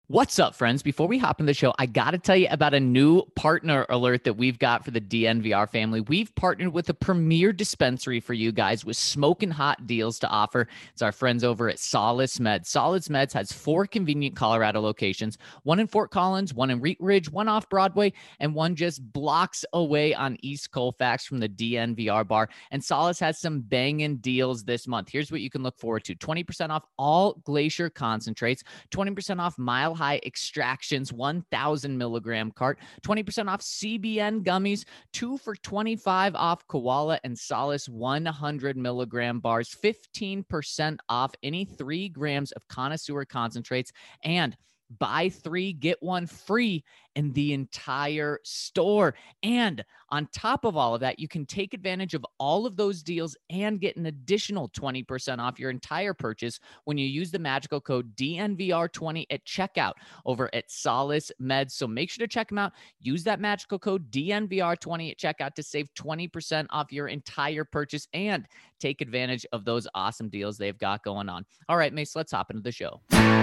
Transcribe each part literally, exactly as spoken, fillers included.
What's up, friends? Before we hop in the show, I got to tell you about a new partner alert that we've got for the D N V R family. We've partnered with a premier dispensary for you guys with smoking hot deals to offer. It's our friends over at Solace Meds. Solace Meds has four convenient Colorado locations, one in Fort Collins, one in Wheat Ridge, one off Broadway, and one just blocks away on East Colfax from the D N V R bar. And Solace has some banging deals this month. Here's what you can look forward to. twenty percent off all Glacier concentrates, twenty percent off Mile High Extractions, one thousand milligram cart, twenty percent off C B N gummies, two for twenty-five off Koala and Solace one hundred milligram bars, fifteen percent off any three grams of Connoisseur concentrates, and buy three, get one free in the entire store. And on top of all of that, you can take advantage of all of those deals and get an additional twenty percent off your entire purchase when you use the magical code D N V R twenty at checkout over at Solace Meds. So make sure to check them out. Use that magical code D N V R twenty at checkout to save twenty percent off your entire purchase and take advantage of those awesome deals they've got going on. All right, Mace, let's hop into the show.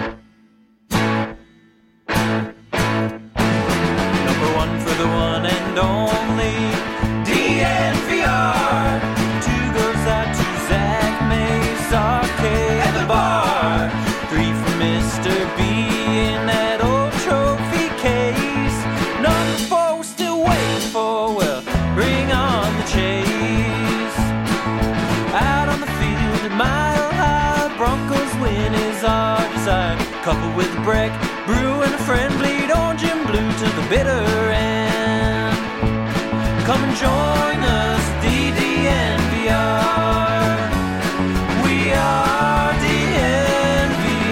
Number one for the one and only D N V R. Two goes out to Zach Mace, Arcade, and the bar. Three for Mister B in that old trophy case. Number four we're still waiting for, well, bring on the chase. Out on the field at Mile High, Broncos win is our desire. Couple with a break, brew and a friend, bleed orange and blue to the bitter end. Come and join us, D D N V R. We are D N V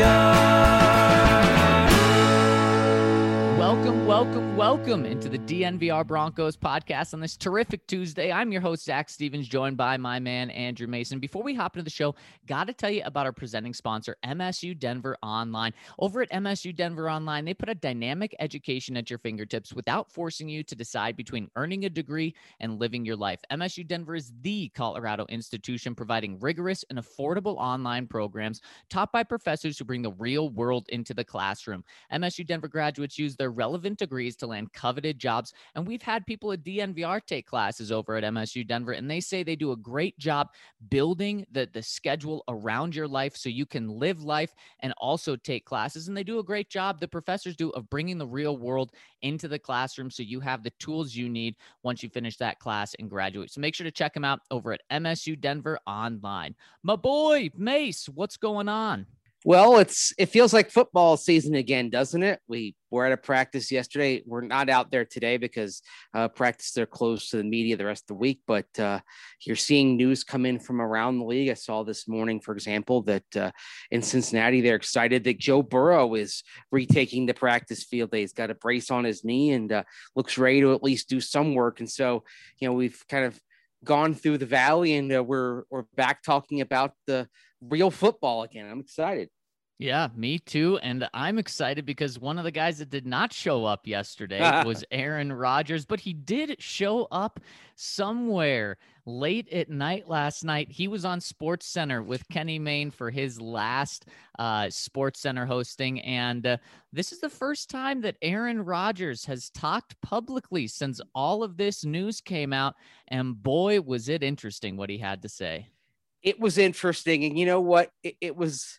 R. Welcome, welcome, welcome into the D N V R Broncos podcast on this terrific Tuesday. I'm your host, Zach Stevens, joined by my man, Andrew Mason. Before we hop into the show, got to tell you about our presenting sponsor, M S U Denver Online. Over at M S U Denver Online, they put a dynamic education at your fingertips without forcing you to decide between earning a degree and living your life. M S U Denver is the Colorado institution providing rigorous and affordable online programs taught by professors who bring the real world into the classroom. M S U Denver graduates use their relevant degrees to land coveted jobs, and we've had people at D N V R take classes over at M S U Denver, and they say they do a great job building the, the schedule around your life so you can live life and also take classes, and they do a great job, the professors do, of bringing the real world into the classroom so you have the tools you need once you finish that class and graduate. So make sure to check them out over at M S U Denver Online. My boy, Mace, what's going on? Well, it's it feels like football season again, doesn't it? We were at a practice yesterday. We're not out there today because uh, practice they're closed to the media the rest of the week. But uh, you're seeing news come in from around the league. I saw this morning, for example, that uh, in Cincinnati they're excited that Joe Burrow is retaking the practice field. He's got a brace on his knee and uh, looks ready to at least do some work. And so, you know, we've kind of gone through the valley and uh, we're we're back talking about the real football again. I'm excited. Yeah, me too. And I'm excited because one of the guys that did not show up yesterday was Aaron Rodgers, but he did show up somewhere late at night last night. He was on Sports Center with Kenny Mayne for his last uh, Sports Center hosting. And uh, this is the first time that Aaron Rodgers has talked publicly since all of this news came out. And boy, was it interesting what he had to say. It was interesting. And you know what? It, it was...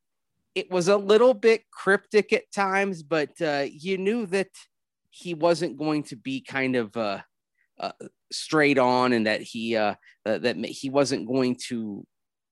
It was a little bit cryptic at times, but uh, you knew that he wasn't going to be kind of uh, uh, straight on, and that he uh, uh, that he wasn't going to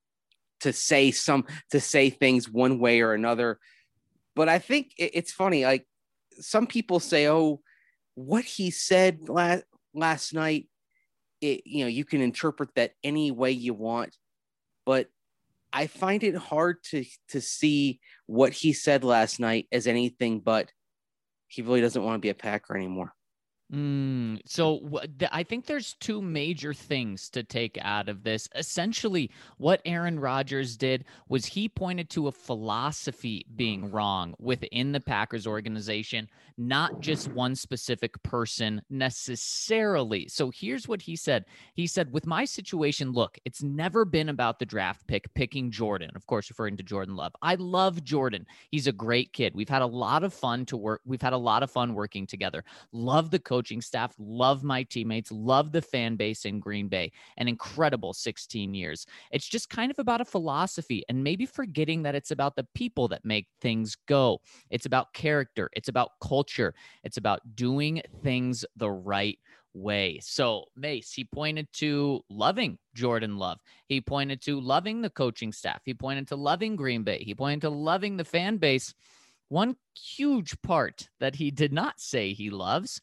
to say some to say things one way or another. But I think it, it's funny. Like some people say, "Oh, what he said last last night, it, you know, you can interpret that any way you want," but I find it hard to to see what he said last night as anything but he really doesn't want to be a Packer anymore. Mm, so wh- th- I think there's two major things to take out of this. Essentially, what Aaron Rodgers did was he pointed to a philosophy being wrong within the Packers organization, not just one specific person necessarily. So here's what he said. He said, with my situation, look, it's never been about the draft pick picking Jordan, of course, referring to Jordan Love. I love Jordan. He's a great kid. We've had a lot of fun to work. We've had a lot of fun working together. Love the coaching staff, love my teammates, love the fan base in Green Bay. An incredible sixteen years. It's just kind of about a philosophy and maybe forgetting that it's about the people that make things go. It's about character. It's about culture. It's about doing things the right way. So Mace, he pointed to loving Jordan Love. He pointed to loving the coaching staff. He pointed to loving Green Bay. He pointed to loving the fan base. One huge part that he did not say he loves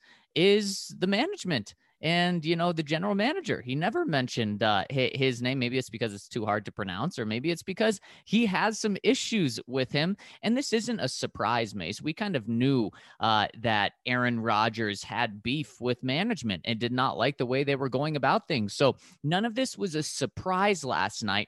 is the management and, you know, the general manager. He never mentioned uh, his name. Maybe it's because it's too hard to pronounce, or maybe it's because he has some issues with him. And this isn't a surprise, Mace. We kind of knew uh, that Aaron Rodgers had beef with management and did not like the way they were going about things. So none of this was a surprise last night,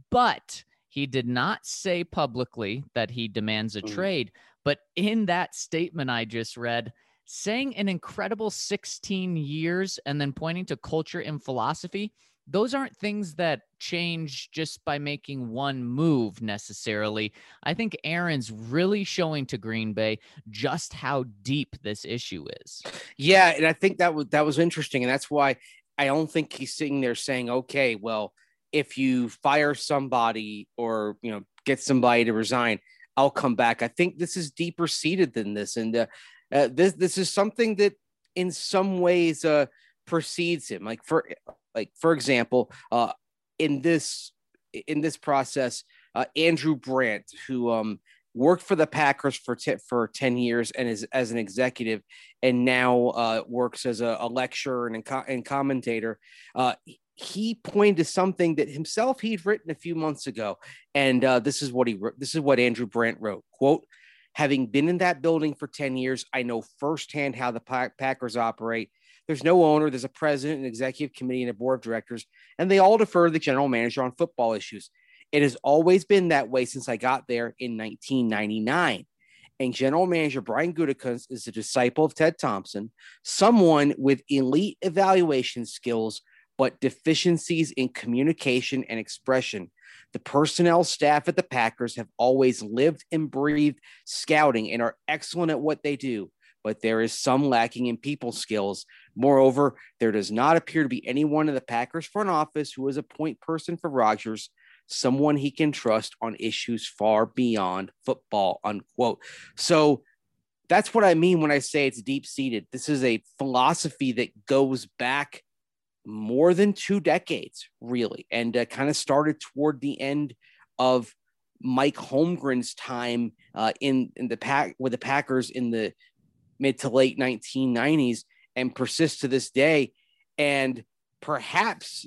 but he did not say publicly that he demands a trade. But in that statement I just read, saying an incredible sixteen years and then pointing to culture and philosophy, those aren't things that change just by making one move necessarily. I think Aaron's really showing to Green Bay just how deep this issue is. Yeah, and I think that was that was interesting, and that's why I don't think he's sitting there saying, "Okay, well, if you fire somebody or you know get somebody to resign, I'll come back." I think this is deeper seated than this, and uh, uh, this this is something that in some ways uh, precedes him. Like for like for example, uh, in this in this process, uh, Andrew Brandt, who um, worked for the Packers for t- for ten years and is as an executive, and now uh, works as a, a lecturer and, co- and commentator. Uh, he pointed to something that himself he'd written a few months ago, and uh, this is what he wrote. This is what Andrew Brandt wrote. Quote, having been in that building for ten years, I know firsthand how the Packers operate. There's no owner. There's a president, an executive committee, and a board of directors, and they all defer to the general manager on football issues. It has always been that way since I got there in nineteen ninety-nine. And general manager Brian Gutekunst is a disciple of Ted Thompson, someone with elite evaluation skills, but deficiencies in communication and expression. The personnel staff at the Packers have always lived and breathed scouting and are excellent at what they do, but there is some lacking in people skills. Moreover, there does not appear to be anyone in the Packers front office who is a point person for Rodgers, someone he can trust on issues far beyond football, unquote. So that's what I mean when I say it's deep-seated. This is a philosophy that goes back more than two decades, really, and uh, kind of started toward the end of Mike Holmgren's time uh, in, in the pack with the Packers in the mid to late nineteen nineties and persists to this day. And perhaps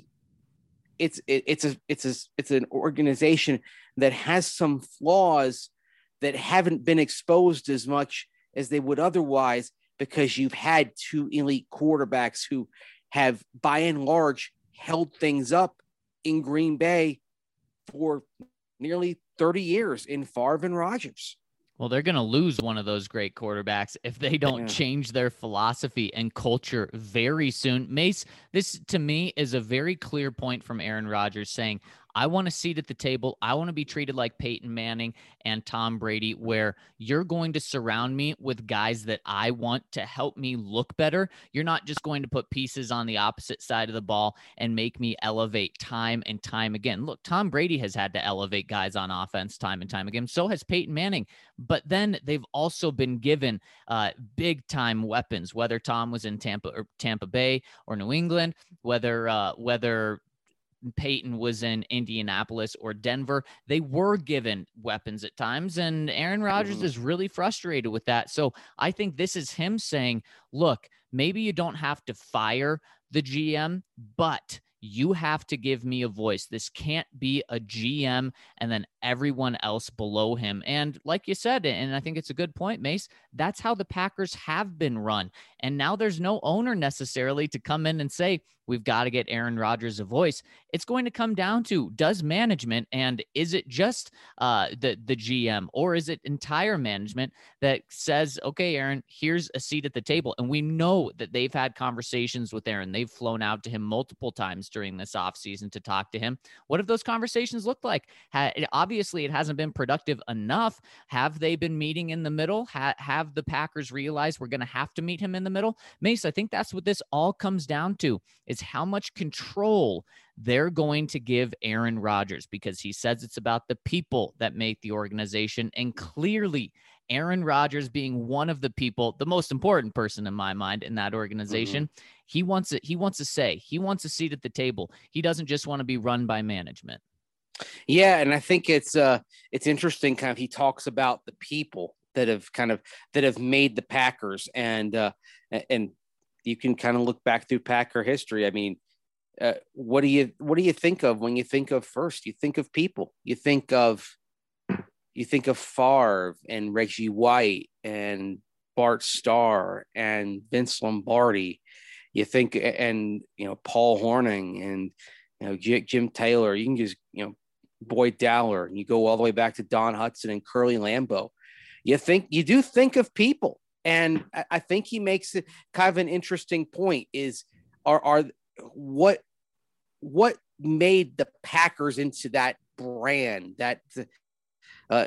it's it, it's a it's a it's an organization that has some flaws that haven't been exposed as much as they would otherwise, because you've had two elite quarterbacks who have by and large held things up in Green Bay for nearly thirty years in Favre and Rodgers. Well, they're going to lose one of those great quarterbacks if they don't yeah. change their philosophy and culture very soon. Mace, this to me is a very clear point from Aaron Rodgers saying, I want a seat at the table. I want to be treated like Peyton Manning and Tom Brady, where you're going to surround me with guys that I want to help me look better. You're not just going to put pieces on the opposite side of the ball and make me elevate time and time again. Look, Tom Brady has had to elevate guys on offense time and time again. So has Peyton Manning. But then they've also been given uh, big time weapons, whether Tom was in Tampa or Tampa Bay or New England, whether uh, whether Peyton was in Indianapolis or Denver. They were given weapons at times, and Aaron Rodgers mm-hmm. is really frustrated with that. So I think this is him saying, look, maybe you don't have to fire the G M, but you have to give me a voice. This can't be a G M and then everyone else below him. And like you said, and I think it's a good point, Mace, that's how the Packers have been run. And now there's no owner necessarily to come in and say, we've got to get Aaron Rodgers a voice. It's going to come down to, does management, and is it just uh, the, the G M, or is it entire management that says, okay, Aaron, here's a seat at the table. And we know that they've had conversations with Aaron. They've flown out to him multiple times during this offseason to talk to him. What have those conversations looked like? Ha- obviously, it hasn't been productive enough. Have they been meeting in the middle? Ha- have the Packers realized we're going to have to meet him in the middle? Mace, I think that's what this all comes down to, is how much control they're going to give Aaron Rodgers, because he says it's about the people that make the organization. And clearly, Aaron Rodgers being one of the people, the most important person in my mind in that organization, mm-hmm. he wants it. He wants to say, he wants a seat at the table. He doesn't just want to be run by management. Yeah. And I think it's, uh, it's interesting. Kind of, he talks about the people that have kind of, that have made the Packers, and, uh, and you can kind of look back through Packer history. I mean, uh, what do you, what do you think of when you think of first? You think of people. You think of, you think of Favre and Reggie White and Bart Starr and Vince Lombardi. You think, and, you know, Paul Hornung and, you know, J- Jim Taylor. You can just, you know, Boyd Dowler, and you go all the way back to Don Hudson and Curly Lambeau. You think, you do think of people. And I, I think he makes it kind of an interesting point, is are, are what, what made the Packers into that brand, that, uh,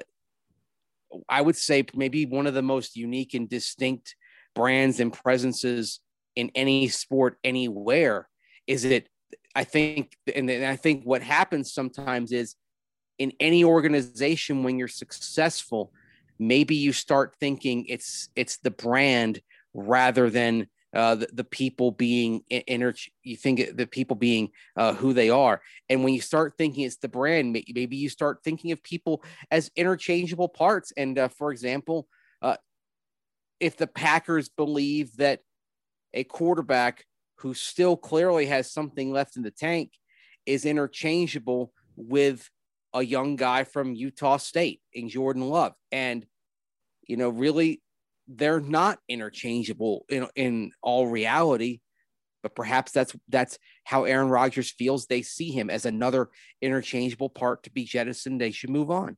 I would say maybe one of the most unique and distinct brands and presences in any sport anywhere. Is it, I think, and I think what happens sometimes is, in any organization, when you're successful, maybe you start thinking it's, it's the brand rather than uh, the, the people being inter, you think the people being uh, who they are. And when you start thinking it's the brand, maybe you start thinking of people as interchangeable parts. And uh, for example, uh, if the Packers believe that a quarterback who still clearly has something left in the tank is interchangeable with a young guy from Utah State in Jordan Love, and, you know, really, they're not interchangeable in, in all reality, but perhaps that's, that's how Aaron Rodgers feels. They see him as another interchangeable part to be jettisoned. They should move on.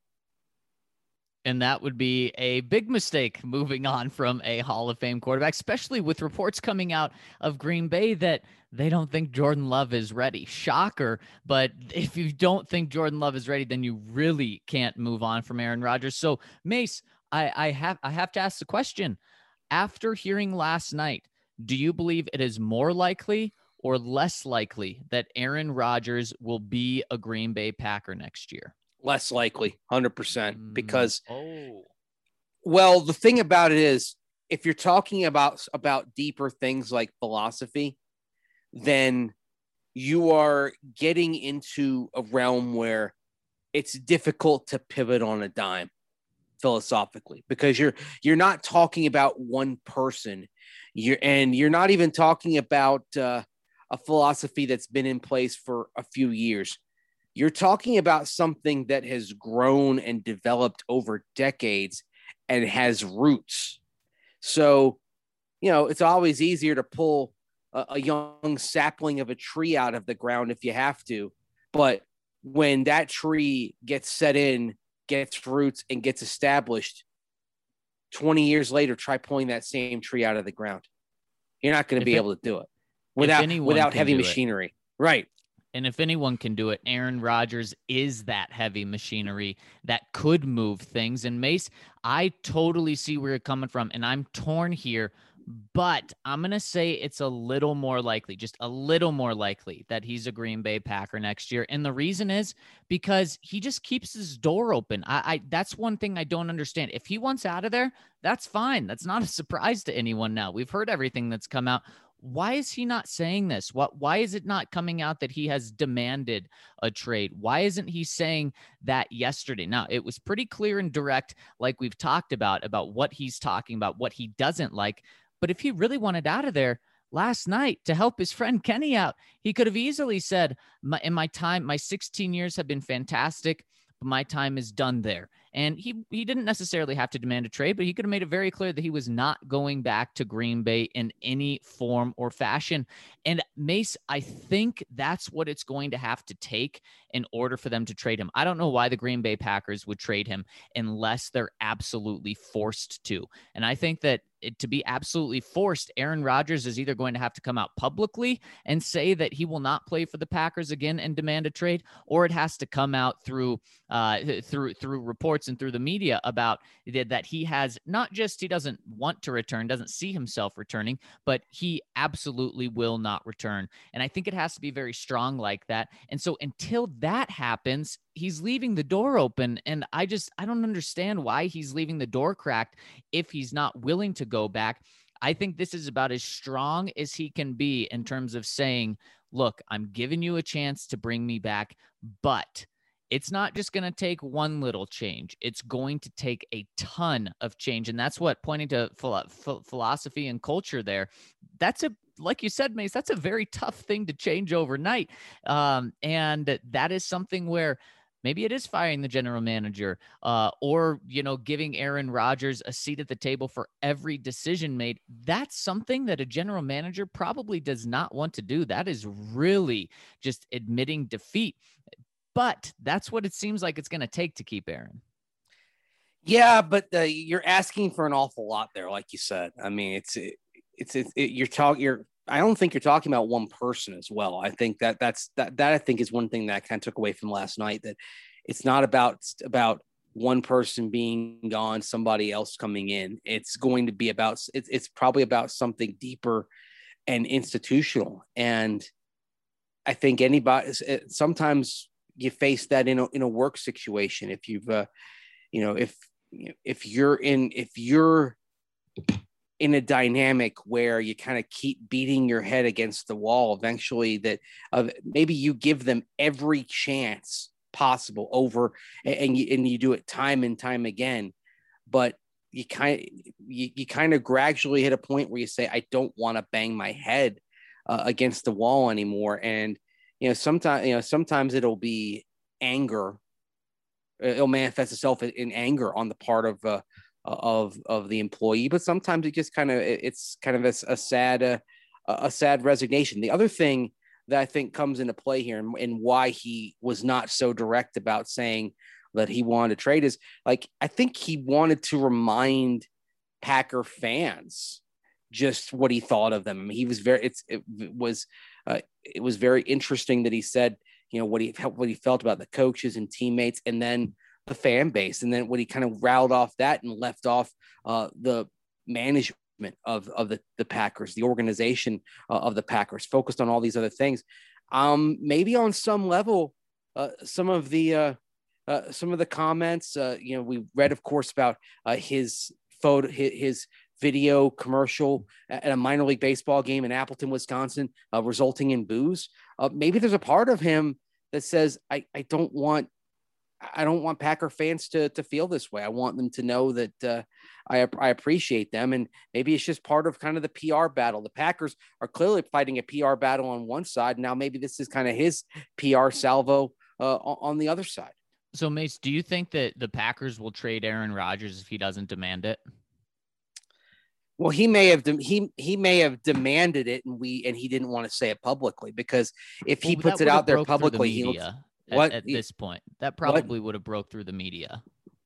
And that would be a big mistake, moving on from a Hall of Fame quarterback, especially with reports coming out of Green Bay that they don't think Jordan Love is ready. Shocker. But if you don't think Jordan Love is ready, then you really can't move on from Aaron Rodgers. So, Mace, I, I have I have to ask the question. After hearing last night, do you believe it is more likely or less likely that Aaron Rodgers will be a Green Bay Packer next year? Less likely, one hundred percent, because, oh, well, the thing about it is, if you're talking about, about deeper things like philosophy, then you are getting into a realm where it's difficult to pivot on a dime philosophically, because you're, you're not talking about one person. You're, and you're not even talking about uh, a philosophy that's been in place for a few years. You're talking about something that has grown and developed over decades and has roots. So, you know, it's always easier to pull a, a young sapling of a tree out of the ground if you have to. But when that tree gets set in, gets roots, and gets established, twenty years later, try pulling that same tree out of the ground. You're not going to be it, able to do it without, without heavy machinery. It. Right. And if anyone can do it, Aaron Rodgers is that heavy machinery that could move things. And Mace, I totally see where you're coming from, and I'm torn here, but I'm going to say it's a little more likely, just a little more likely, that he's a Green Bay Packer next year. And the reason is because he just keeps his door open. I, I that's one thing I don't understand. If he wants out of there, that's fine. That's not a surprise to anyone now. We've heard everything that's come out. Why is he not saying this? What, why is it not coming out that he has demanded a trade? Why isn't he saying that yesterday? Now, it was pretty clear and direct, like we've talked about, about what he's talking about, what he doesn't like. But if he really wanted out of there last night to help his friend Kenny out, he could have easily said, my, in my time, my sixteen years have been fantastic. but my time is done there. And he he didn't necessarily have to demand a trade, but he could have made it very clear that he was not going back to Green Bay in any form or fashion. And Mace, I think that's what it's going to have to take in order for them to trade him. I don't know why the Green Bay Packers would trade him unless they're absolutely forced to. And I think that it, to be absolutely forced, Aaron Rodgers is either going to have to come out publicly and say that he will not play for the Packers again and demand a trade, or it has to come out through uh, through through reports and through the media about that he has not just he doesn't want to return, doesn't see himself returning, but he absolutely will not return. And I think it has to be very strong like that. And so until that happens, he's leaving the door open. And I just, I don't understand why he's leaving the door cracked if he's not willing to go back. I think this is about as strong as he can be in terms of saying, look, I'm giving you a chance to bring me back, but it's not just going to take one little change. It's going to take a ton of change. And that's what, pointing to philo- philosophy and culture there, that's a, like you said, Mace, that's a very tough thing to change overnight. Um, and that is something where maybe it is firing the general manager uh, or, you know, giving Aaron Rodgers a seat at the table for every decision made. That's something that a general manager probably does not want to do. That is really just admitting defeat. But that's what it seems like it's going to take to keep Aaron. Yeah, but uh, you're asking for an awful lot there, like you said. I mean, it's it, it's it, it, you're talking. You're. I don't think you're talking about one person as well. I think that that's that that I think is one thing that I kind of took away from last night. That it's not about about one person being gone, somebody else coming in. It's going to be about. It's it's probably about something deeper and institutional. And I think anybody sometimes. You face that in a, in a work situation. If you've, uh, you know, if, if you're in, if you're in a dynamic where you kind of keep beating your head against the wall, eventually that uh, maybe you give them every chance possible over and, and you, and you do it time and time again, but you kind of, you, you kind of gradually hit a point where you say, I don't want to bang my head uh, against the wall anymore. And, you know, sometimes, you know, sometimes it'll be anger. It'll manifest itself in, in anger on the part of, uh, of, of the employee, but sometimes it just kind of, it's kind of a, a sad, uh, a sad resignation. The other thing that I think comes into play here and, and why he was not so direct about saying that he wanted to trade is like, I think he wanted to remind Packer fans just what he thought of them. I mean, he was very, it's, it was, uh, it was very interesting that he said, you know, what he, what he felt about the coaches and teammates and then the fan base. And then when he kind of riled off that and left off uh, the management of, of the, the Packers, the organization uh, of the Packers, focused on all these other things. Um, maybe on some level, uh, some of the, uh, uh, some of the comments, uh, you know, we read, of course, about uh, his photo, his, his video commercial at a minor league baseball game in Appleton, Wisconsin, uh, resulting in boos. Uh, maybe there's a part of him that says, I, I don't want, I don't want Packer fans to, to feel this way. I want them to know that uh, I, I appreciate them. And maybe it's just part of kind of the P R battle. The Packers are clearly fighting a P R battle on one side. Now, maybe this is kind of his P R salvo uh, on the other side. So Mace, do you think that the Packers will trade Aaron Rodgers if he doesn't demand it? Well, he may have de- he he may have demanded it, and we and he didn't want to say it publicly because if he well, puts it out there publicly, the he looks, at, what at this point that probably what? would have broke through the media.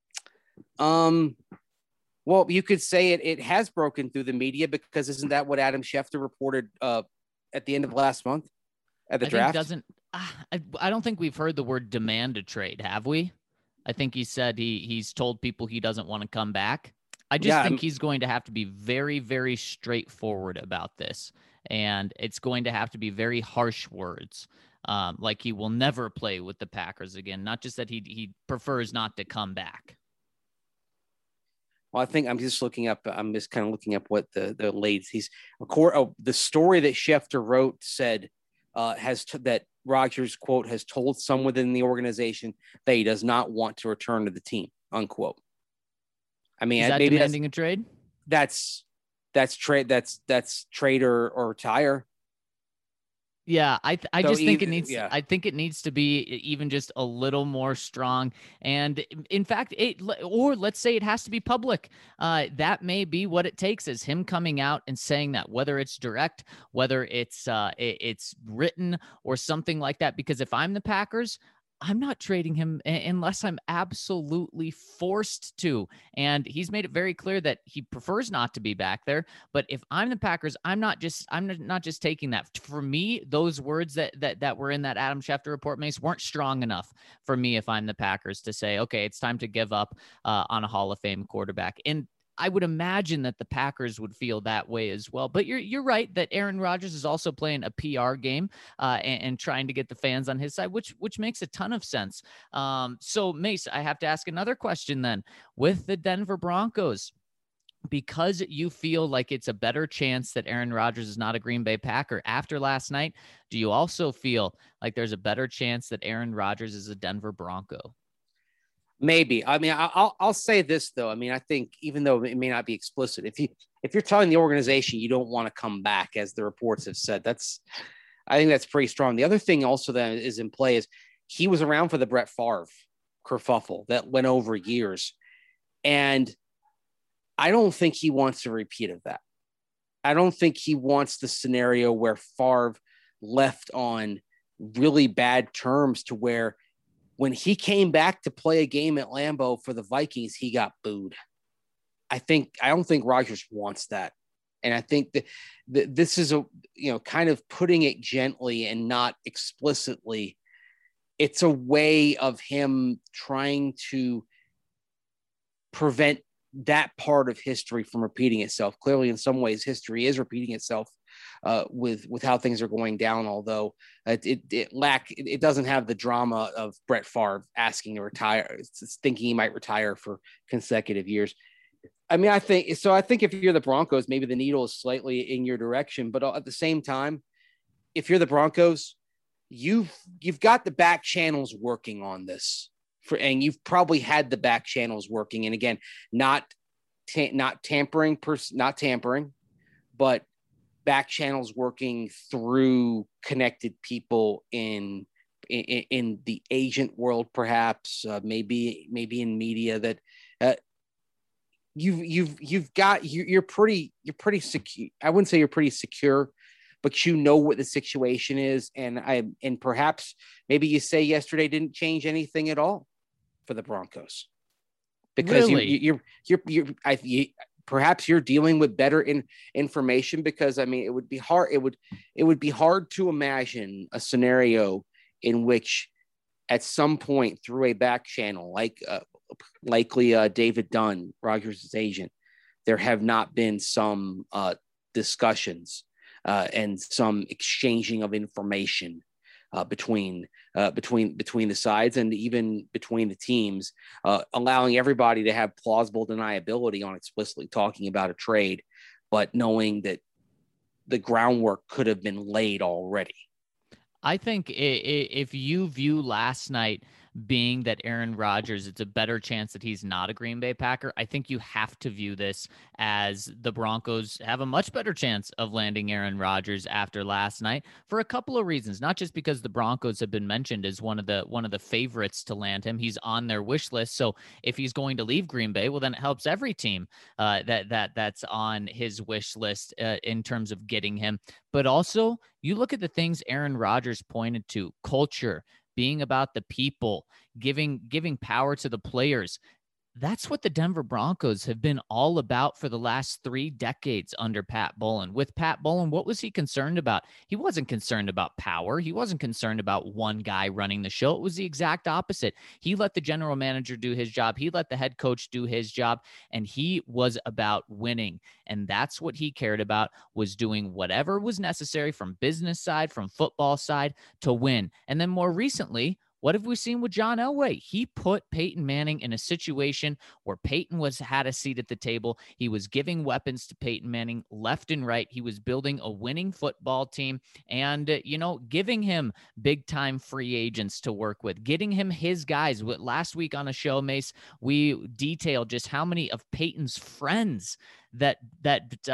Um, well, you could say it it has broken through the media because isn't that what Adam Schefter reported uh, at the end of last month at the I draft? Think doesn't uh, I, I don't think we've heard the word demand a trade, have we? I think he said he he's told people he doesn't want to come back. I just yeah, think I'm, he's going to have to be very, very straightforward about this. And it's going to have to be very harsh words. Um, like he will never play with the Packers again. Not just that he he prefers not to come back. Well, I think I'm just looking up. I'm just kind of looking up what the, the latest he's oh, the story that Schefter wrote said uh, has t- that Rodgers, quote, has told some within the organization that he does not want to return to the team, unquote. I mean, is that maybe demanding a trade? That's that's trade. That's that's trade or, or retire. Yeah, I th- I So just think it either- needs yeah. I think it needs to be e, even just a little more strong. And in fact, it or let's say it has to be public. Uh, that may be what it takes, is him coming out and saying that, whether it's direct, whether it's uh, it, it's written or something like that. Because if I'm the Packers, I'm not trading him a- unless I'm absolutely forced to. And he's made it very clear that he prefers not to be back there. But if I'm the Packers, I'm not just I'm not just taking that. For me, those words that that that were in that Adam Schefter report, Mace, weren't strong enough for me if I'm the Packers to say, okay, it's time to give up uh, on a Hall of Fame quarterback. And I would imagine that the Packers would feel that way as well. But you're you're right that Aaron Rodgers is also playing a P R game uh, and, and trying to get the fans on his side, which which makes a ton of sense. Um, so, Mace, I have to ask another question then. With the Denver Broncos, because you feel like it's a better chance that Aaron Rodgers is not a Green Bay Packer after last night, do you also feel like there's a better chance that Aaron Rodgers is a Denver Bronco? Maybe. I mean, I- I'll I'll say this though. I mean, I think even though it may not be explicit, if you if you're telling the organization you don't want to come back, as the reports have said, that's I think that's pretty strong. The other thing also that is in play is he was around for the Brett Favre kerfuffle that went over years, and I don't think he wants a repeat of that. I don't think he wants the scenario where Favre left on really bad terms to where when he came back to play a game at Lambeau for the Vikings, he got booed. I think, I don't think Rodgers wants that. And I think that, that this is a, you know, kind of putting it gently and not explicitly. It's a way of him trying to prevent that part of history from repeating itself. Clearly, in some ways, history is repeating itself uh, with with how things are going down. Although it it, it lack it, it doesn't have the drama of Brett Favre asking to retire, it's thinking he might retire for consecutive years. I mean, I think so. I think if you're the Broncos, maybe the needle is slightly in your direction, but at the same time, if you're the Broncos, you've you've got the back channels working on this. For, and you've probably had the back channels working, and again, not ta- not tampering, pers- not tampering, but back channels working through connected people in in, in the agent world, perhaps uh, maybe maybe in media that uh, you've you've you've got you, you're pretty you're pretty secure. I wouldn't say you're pretty secure, but you know what the situation is, and I and perhaps maybe you say yesterday didn't change anything at all for the Broncos, because Really? you, you're you're you're I you, perhaps you're dealing with better in, information. Because I mean, it would be hard. It would it would be hard to imagine a scenario in which, at some point through a back channel, like uh, likely uh, David Dunn, Rodgers' agent, there have not been some uh, discussions uh, and some exchanging of information Uh, between uh, between between the sides and even between the teams, uh, allowing everybody to have plausible deniability on explicitly talking about a trade, but knowing that the groundwork could have been laid already. I think if you view last night being that Aaron Rodgers, it's a better chance that he's not a Green Bay Packer, I think you have to view this as the Broncos have a much better chance of landing Aaron Rodgers after last night for a couple of reasons. Not just because the Broncos have been mentioned as one of the one of the favorites to land him. He's on their wish list. So if he's going to leave Green Bay, well, then it helps every team uh, that that that's on his wish list uh, in terms of getting him. But also, you look at the things Aaron Rodgers pointed to: culture, being about the people, giving giving power to the players. That's what the Denver Broncos have been all about for the last three decades under Pat Bowlen. With Pat Bowlen, what was he concerned about? He wasn't concerned about power. He wasn't concerned about one guy running the show. It was the exact opposite. He let the general manager do his job. He let the head coach do his job, and he was about winning. And that's what he cared about, was doing whatever was necessary from business side, from football side, to win. And then more recently, what have we seen with John Elway? He put Peyton Manning in a situation where Peyton was had a seat at the table. He was giving weapons to Peyton Manning left and right. He was building a winning football team and, uh, you know, giving him big-time free agents to work with, getting him his guys. Last week on a show, Mace, we detailed just how many of Peyton's friends that that uh,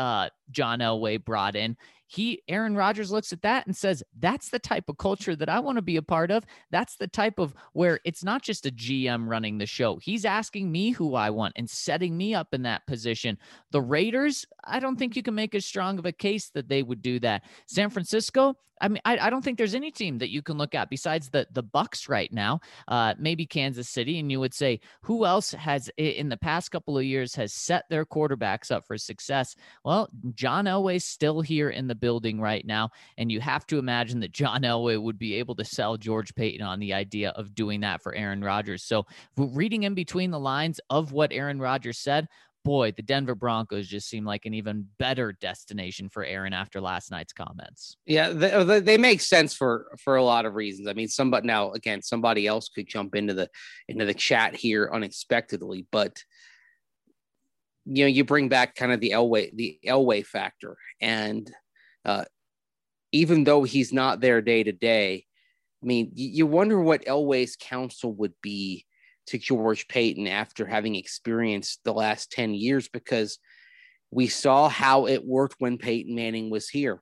John Elway brought in. He, Aaron Rodgers looks at that and says, that's the type of culture that I want to be a part of. That's the type of where it's not just a G M running the show. He's asking me who I want and setting me up in that position. The Raiders, I don't think you can make as strong of a case that they would do that. San Francisco, I mean, I, I don't think there's any team that you can look at besides the the Bucks right now, uh, maybe Kansas City, and you would say, who else has in the past couple of years has set their quarterbacks up for success? Well, John Elway's still here in the building right now, and you have to imagine that John Elway would be able to sell George Paton on the idea of doing that for Aaron Rodgers. So reading in between the lines of what Aaron Rodgers said, boy, the Denver Broncos just seem like an even better destination for Aaron after last night's comments. Yeah, they, they make sense for for a lot of reasons. I mean, somebody now again, somebody else could jump into the into the chat here unexpectedly, but you know, you bring back kind of the Elway the Elway factor, and uh, even though he's not there day to day, I mean, you, you wonder what Elway's counsel would be to George Paton after having experienced the last ten years, because we saw how it worked when Peyton Manning was here.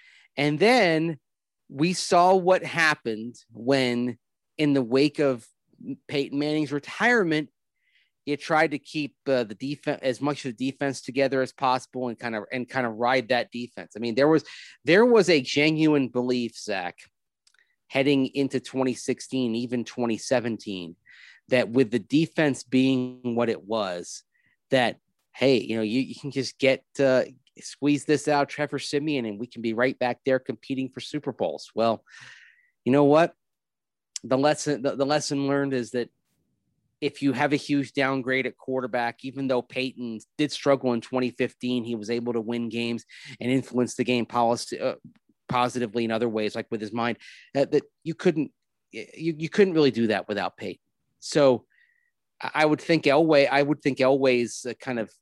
And then we saw what happened when, in the wake of Peyton Manning's retirement, you tried to keep uh, the defense, as much of the defense together as possible, and kind of and kind of ride that defense. I mean, there was there was a genuine belief, Zach, heading into twenty sixteen, even twenty seventeen, that with the defense being what it was, that, hey, you know, you, you can just get, uh, squeeze this out, Trevor Siemian, and we can be right back there competing for Super Bowls. Well, you know what? The lesson, the, the lesson learned is that if you have a huge downgrade at quarterback, even though Peyton did struggle in twenty fifteen, he was able to win games and influence the game policy, uh, positively in other ways, like with his mind, uh, that you couldn't, you, you couldn't really do that without Peyton. So I would think Elway, I would think Elway's uh, kind of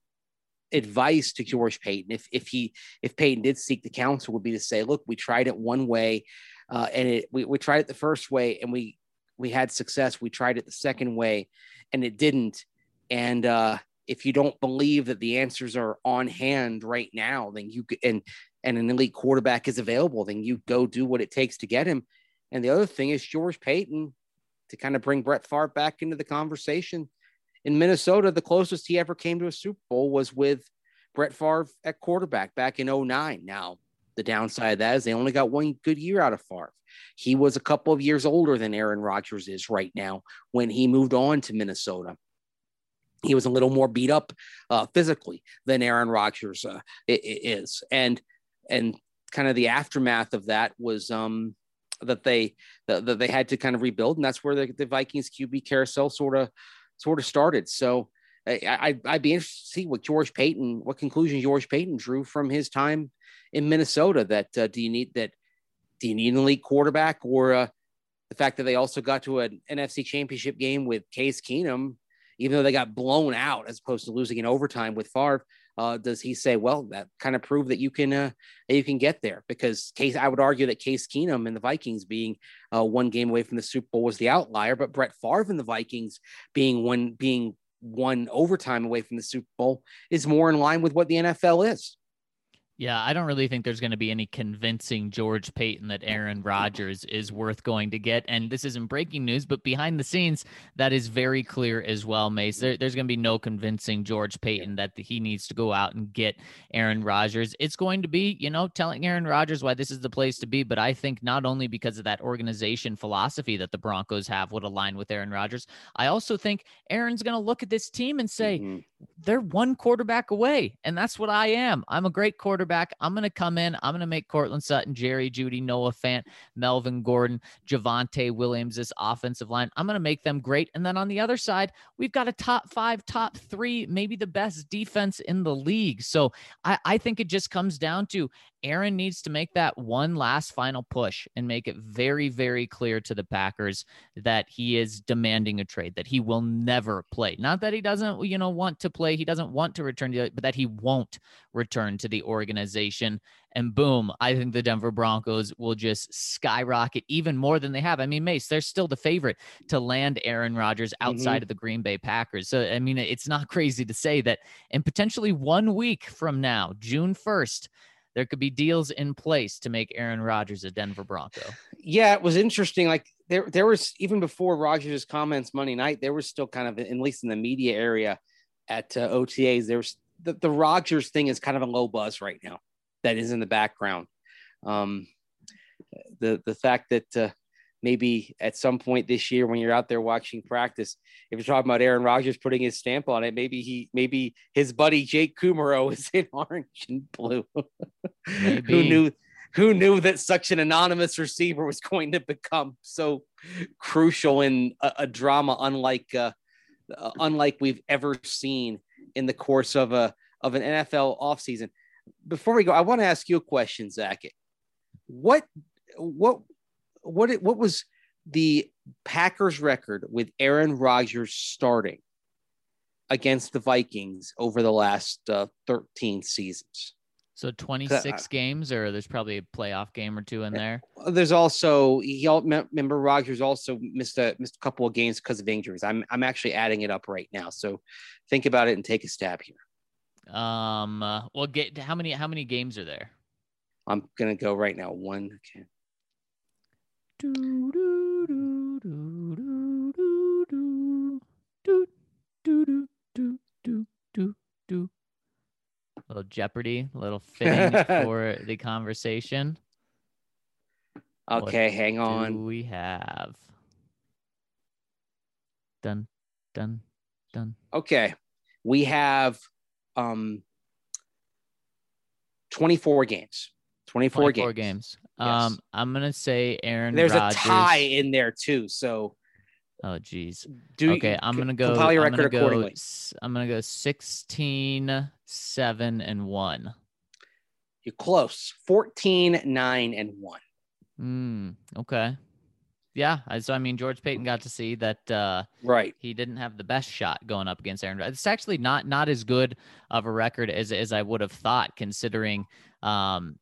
advice to George Paton, if if he if Peyton did seek the counsel, would be to say, look, we tried it one way, uh, and it we, we tried it the first way, and we we had success. We tried it the second way, and it didn't. And uh, if you don't believe that the answers are on hand right now, then you and and an elite quarterback is available, then you go do what it takes to get him. And the other thing is George Paton, to kind of bring Brett Favre back into the conversation. In Minnesota, the closest he ever came to a Super Bowl was with Brett Favre at quarterback back in oh nine. Now, the downside of that is they only got one good year out of Favre. He was a couple of years older than Aaron Rodgers is right now when he moved on to Minnesota. He was a little more beat up uh, physically than Aaron Rodgers uh, is. And, and kind of the aftermath of that was, um, that they that they had to kind of rebuild, and that's where the, the Vikings Q B carousel sort of sort of started. So I, I I'd be interested to see what George Paton, what conclusion George Paton drew from his time in Minnesota. That uh, do you need that? Do you need an elite quarterback, or uh, the fact that they also got to an N F C Championship game with Case Keenum, even though they got blown out as opposed to losing in overtime with Favre? Uh, does he say, well, that kind of proved that you can uh, that you can get there? Because Case, I would argue that Case Keenum and the Vikings being uh, one game away from the Super Bowl was the outlier, but Brett Favre and the Vikings being one being one overtime away from the Super Bowl is more in line with what the N F L is. Yeah, I don't really think there's going to be any convincing George Paton that Aaron Rodgers is worth going to get. And this isn't breaking news, but behind the scenes, that is very clear as well, Mace. There, there's going to be no convincing George Paton that he needs to go out and get Aaron Rodgers. It's going to be, you know, telling Aaron Rodgers why this is the place to be. But I think not only because of that organization philosophy that the Broncos have would align with Aaron Rodgers, I also think Aaron's going to look at this team and say, mm-hmm. they're one quarterback away. And that's what I am. I'm a great quarterback. I'm going to come in. I'm going to make Cortland Sutton, Jerry Jeudy, Noah Fant, Melvin Gordon, Javonte Williams, this offensive line. I'm going to make them great. And then on the other side, we've got a top five, top three, maybe the best defense in the league. So I, I think it just comes down to Aaron needs to make that one last final push and make it very, very clear to the Packers that he is demanding a trade, that he will never play. Not that he doesn't, you know, want to play. He doesn't want to return to it, but that he won't return to the organization organization. And boom, I think the Denver Broncos will just skyrocket even more than they have. I mean, Mace, they're still the favorite to land Aaron Rodgers outside Mm-hmm. of the Green Bay Packers. So, I mean, it's not crazy to say that in potentially one week from now, June first, there could be deals in place to make Aaron Rodgers a Denver Bronco. Yeah, it was interesting. Like there, there was even before Rodgers' comments Monday night, there was still kind of, at least in the media area at uh, O T As, there was the, the Rodgers thing is kind of a low buzz right now. That is in the background. Um, the the fact that uh, maybe at some point this year, when you're out there watching practice, if you're talking about Aaron Rodgers putting his stamp on it, maybe he maybe his buddy Jake Kumaro is in orange and blue. Who knew? Who knew that such an anonymous receiver was going to become so crucial in a, a drama unlike uh, uh, unlike we've ever seen in the course of a of an N F L offseason. Before we go, I want to ask you a question, Zach. What, what, what, what was the Packers record with Aaron Rodgers starting against the Vikings over the last uh, thirteen seasons? So twenty-six games, or there's probably a playoff game or two in there. There's also, he all remember Rodgers also missed a missed a couple of games because of injuries. I'm I'm actually adding it up right now. So think about it and take a stab here. Um. Uh, well, get how many how many games are there? I'm gonna go right now. One. Okay. Do, do, do, do, do, do, do, do, do, do, do, do. Little Jeopardy, a little fitting for the conversation. Okay, what hang on. Do we have? Dun, dun, dun. Okay, we have um twenty-four games. twenty-four, twenty-four games. games. Yes. Um, I'm gonna say Aaron. There's Rodgers. a tie in there too. So. Oh geez. Do okay, you, I'm gonna go. Compile your I'm record gonna go. accordingly. I'm gonna go sixteen, seven, and one. You're close. fourteen, nine, and one. Hmm. Okay. Yeah. I, so I mean, George Payton got to see that. Uh, right. He didn't have the best shot going up against Aaron Rodgers. It's actually not not as good of a record as as I would have thought, considering. Um,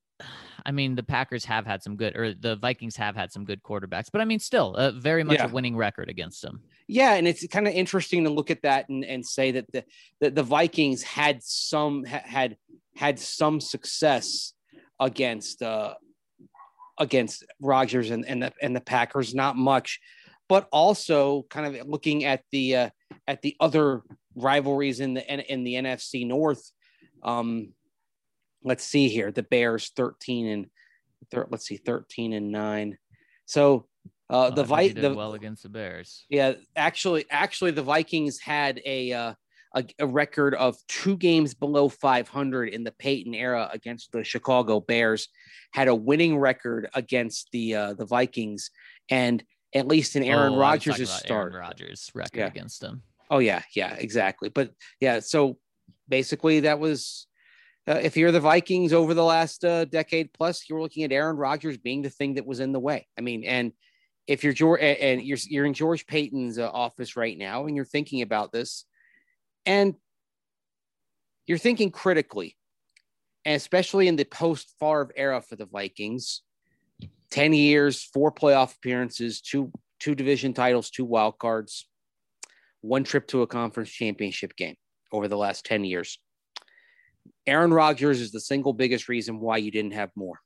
I mean, the Packers have had some good, or the Vikings have had some good quarterbacks, but I mean, still uh, very much yeah. a winning record against them. Yeah. And it's kind of interesting to look at that and, and say that the, the, the Vikings had some, ha, had, had some success against, uh, against Rodgers and, and the, and the Packers, not much, but also kind of looking at the, uh, at the other rivalries in the, in the N F C North. Um, Let's see here. The Bears thirteen and thir- let's see, thirteen and nine. So uh, well, the Vi- did the well against the Bears. Yeah, actually, actually, the Vikings had a, uh, a a record of two games below five hundred in the Peyton era against the Chicago Bears. Had a winning record against the uh, the Vikings, and at least in Aaron oh, Rodgers' start, Aaron Rodgers' record yeah. against them. Oh yeah, yeah, exactly. But yeah, so basically that was. Uh, if you're the Vikings over the last uh, decade plus, you're looking at Aaron Rodgers being the thing that was in the way. I mean, and if you're George and you're you're in George Payton's uh, office right now, and you're thinking about this, and you're thinking critically, and especially in the post-Favre era for the Vikings, ten years, four playoff appearances, two two division titles, two wild cards, one trip to a conference championship game over the last ten years. Aaron Rodgers is the single biggest reason why you didn't have more.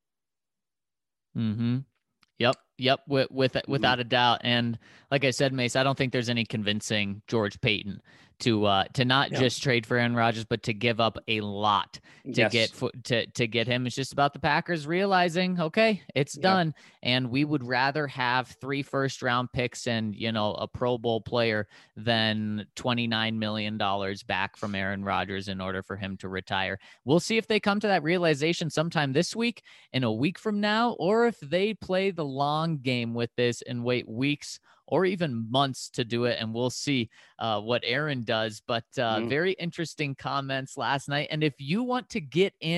Mm-hmm. Yep. Yep. With, with Mm-hmm. without a doubt. And like I said, Mace, I don't think there's any convincing George Payton to uh, to not yeah. just trade for Aaron Rodgers, but to give up a lot to yes. get to to get him. It's just about the Packers realizing, okay, it's yeah. done, and we would rather have three first round picks and you know a Pro Bowl player than twenty-nine million dollars back from Aaron Rodgers in order for him to retire. We'll see if they come to that realization sometime this week, in a week from now, or if they play the long game with this and wait weeks or even months to do it. And we'll see uh, what Aaron does. But uh, mm. very interesting comments last night. And if you want to get in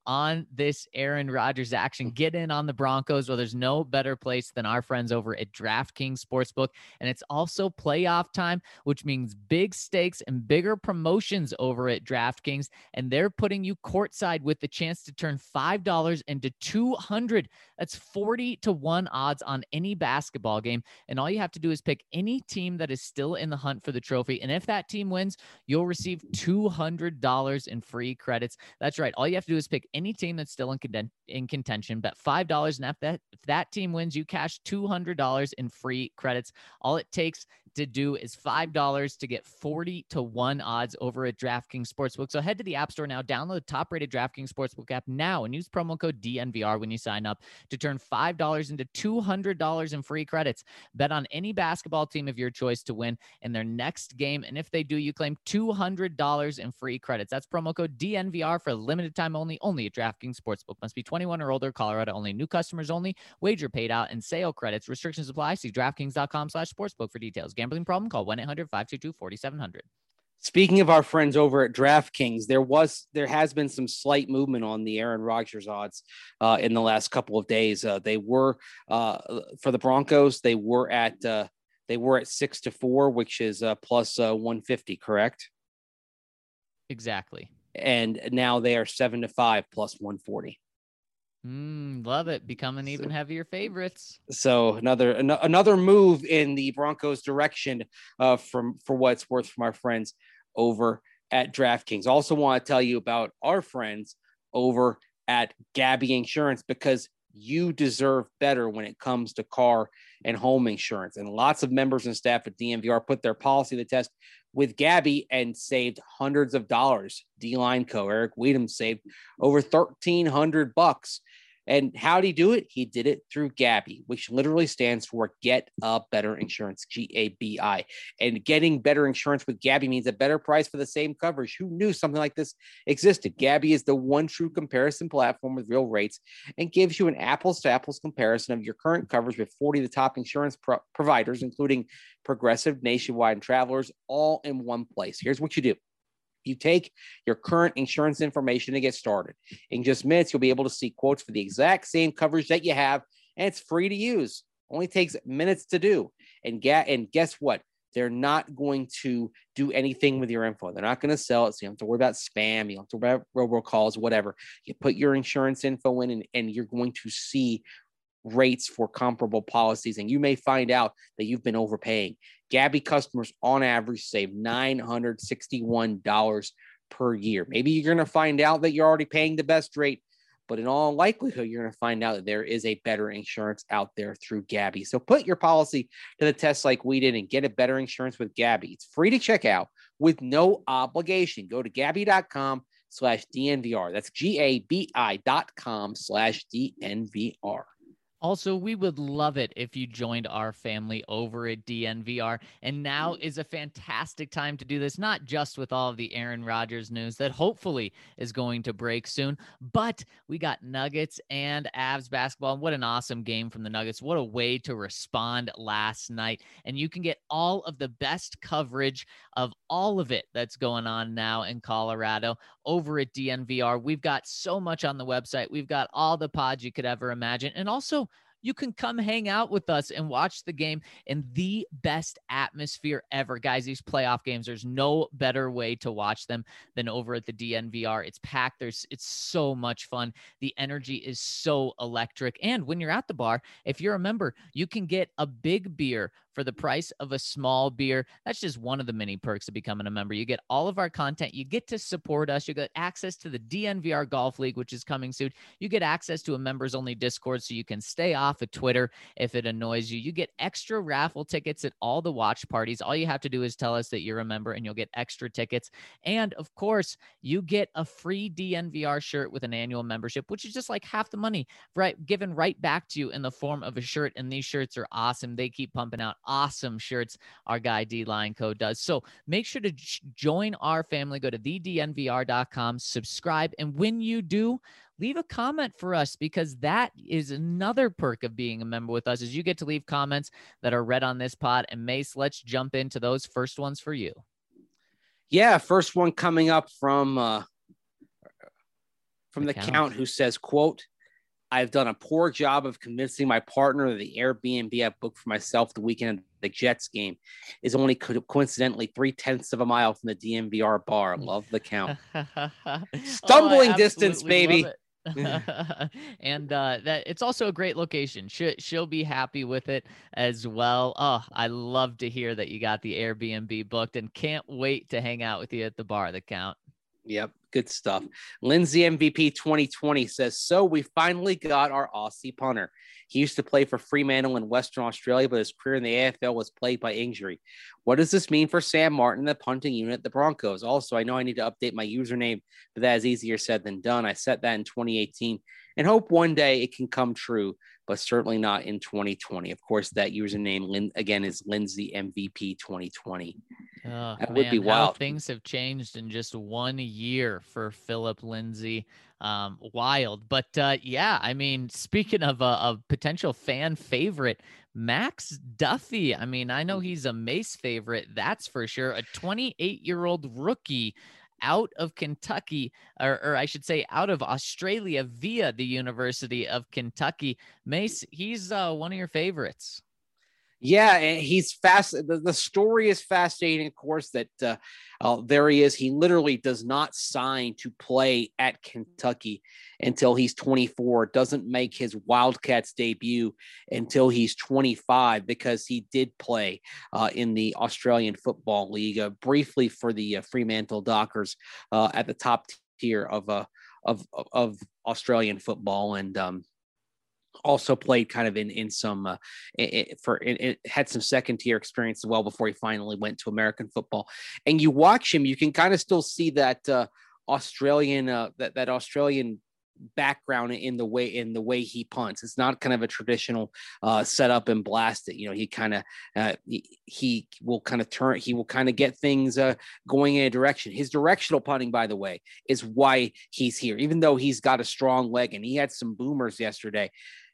on this Aaron Rodgers action. Get in on the Broncos. Well, there's no better place than our friends over at DraftKings Sportsbook. And it's also playoff time, which means big stakes and bigger promotions over at DraftKings. And they're putting you courtside with the chance to turn five dollars into two hundred. That's forty to one odds on any basketball game. And all you have to do is pick any team that is still in the hunt for the trophy. And if that team wins, you'll receive two hundred dollars in free credits. That's right. All you have to do is pick any team that's still in, con- in contention, bet five dollars. And if that, if that team wins, you cash two hundred dollars in free credits. All it takes to do is five dollars to get forty to one odds over at DraftKings Sportsbook. So head to the App Store now, download the top-rated DraftKings Sportsbook app now, and use promo code D N V R when you sign up to turn five dollars into two hundred dollars in free credits. Bet on any basketball team of your choice to win in their next game, and if they do, you claim two hundred dollars in free credits. That's promo code D N V R for a limited time only, only at DraftKings Sportsbook. Must be twenty-one or older, Colorado only. New customers only. Wager paid out and sale credits. Restrictions apply. See DraftKings.com slash sportsbook for details. Gambling problem? Call one eight hundred five two two four seven zero zero. Speaking of our friends over at DraftKings, there was there has been some slight movement on the Aaron Rodgers odds uh, in the last couple of days. Uh, they were uh, for the Broncos. They were at uh, they were at six to four, which is uh, plus uh, one fifty, correct? Exactly. And now they are seven to five plus one forty. Mm, love it. Becoming even heavier favorites. So another an- another move in the Broncos direction uh, from for what it's worth from our friends over at DraftKings. Also want to tell you about our friends over at Gabby Insurance, because you deserve better when it comes to car and home insurance. And lots of members and staff at D N V R put their policy to the test with Gabby and saved hundreds of dollars. D-Line Co. Eric Weedham saved over thirteen hundred bucks. And how did he do it? He did it through Gabby, which literally stands for Get a Better Insurance, G A B I. And getting better insurance with Gabby means a better price for the same coverage. Who knew something like this existed? Gabby is the one true comparison platform with real rates and gives you an apples-to-apples comparison of your current coverage with forty of the top insurance pro- providers, including Progressive, Nationwide, and Travelers, all in one place. Here's what you do. You take your current insurance information to get started. In just minutes, you'll be able to see quotes for the exact same coverage that you have, and it's free to use. Only takes minutes to do. And, ga- and guess what? They're not going to do anything with your info. They're not going to sell it, so you don't have to worry about spam. You don't have to worry about robocalls, whatever. You put your insurance info in, and, and you're going to see rates for comparable policies, and you may find out that you've been overpaying. Gabby customers on average save nine hundred sixty-one dollars per year. Maybe you're going to find out that you're already paying the best rate, but in all likelihood, you're going to find out that there is a better insurance out there through Gabby. So put your policy to the test like we did and get a better insurance with Gabby. It's free to check out with no obligation. Go to Gabby.com slash DNVR. That's G-A-B-I dot com slash D-N-V-R. Also, we would love it if you joined our family over at D N V R. And now is a fantastic time to do this, not just with all of the Aaron Rodgers news that hopefully is going to break soon, but we got Nuggets and Avs basketball. What an awesome game from the Nuggets. What a way to respond last night. And you can get all of the best coverage of all of it that's going on now in Colorado over at D N V R. We've got so much on the website. We've got all the pods you could ever imagine. And also, you can come hang out with us and watch the game in the best atmosphere ever. Guys, these playoff games, there's no better way to watch them than over at the D N V R. It's packed. There's, it's so much fun. The energy is so electric. And when you're at the bar, if you're a member, you can get a big beer for the price of a small beer. That's just one of the many perks of becoming a member. You get all of our content. You get to support us. You get access to the D N V R Golf League, which is coming soon. You get access to a members-only Discord so you can stay off of Twitter if it annoys you. You get extra raffle tickets at all the watch parties. All you have to do is tell us that you're a member and you'll get extra tickets. And of course, you get a free D N V R shirt with an annual membership, which is just like half the money, right? Given right back to you in the form of a shirt. And these shirts are awesome. They keep pumping out awesome shirts our guy D-Line Co does. So make sure to j- join our family. Go to the D N V R dot com, subscribe. And when you do, leave a comment for us, because that is another perk of being a member with us, is you get to leave comments that are read on this pod. And Mace, let's jump into those first ones for you. Yeah, first one coming up from uh, from The the Count. Count, who says, quote, I've done a poor job of convincing my partner that the Airbnb I booked for myself the weekend of the Jets game is only co- coincidentally three tenths of a mile from the D N V R bar. Love The Count. Oh, Stumbling I distance, absolutely love baby. it. And uh, that it's also a great location. She, she'll be happy with it as well. Oh, I love to hear that you got the Airbnb booked and can't wait to hang out with you at the bar, The Count. Yep, good stuff. Lindsay M V P twenty twenty says, so we finally got our Aussie punter. He used to play for Fremantle in Western Australia, but his career in the A F L was plagued by injury. What does this mean for Sam Martin, the punting unit at the Broncos? Also, I know I need to update my username, but that is easier said than done. I set that in twenty eighteen and hope one day it can come true, but certainly not in twenty twenty. Of course, that username, again, is Lindsay M V P twenty twenty. Oh, That man, would be how wild. things have changed in just one year for Philip Lindsay. Um, wild. But uh, yeah, I mean, speaking of a, a potential fan favorite, Max Duffy. I mean, I know he's a Mace favorite, that's for sure. A twenty-eight-year-old rookie out of Kentucky, or, or I should say out of Australia via the University of Kentucky. Mace, he's uh, one of your favorites. Yeah, and he's fast. The, the story is fascinating, of course, that uh, uh, there he is. He literally does not sign to play at Kentucky until he's twenty-four, doesn't make his Wildcats debut until he's twenty-five, because he did play uh, in the Australian Football League uh, briefly for the uh, Fremantle Dockers uh, at the top tier of, uh, of, of Australian football. And, um, also played kind of in in some uh, it, for it, it had some second tier experience as well before he finally went to American football. And you watch him, you can kind of still see that uh, Australian uh, that that Australian background in the way in the way he punts. It's not kind of a traditional uh, set up and blast it. You know, he kind of uh, he, he will kind of turn. He will kind of get things uh, going in a direction. His directional punting, by the way, is why he's here. Even though he's got a strong leg and he had some boomers yesterday.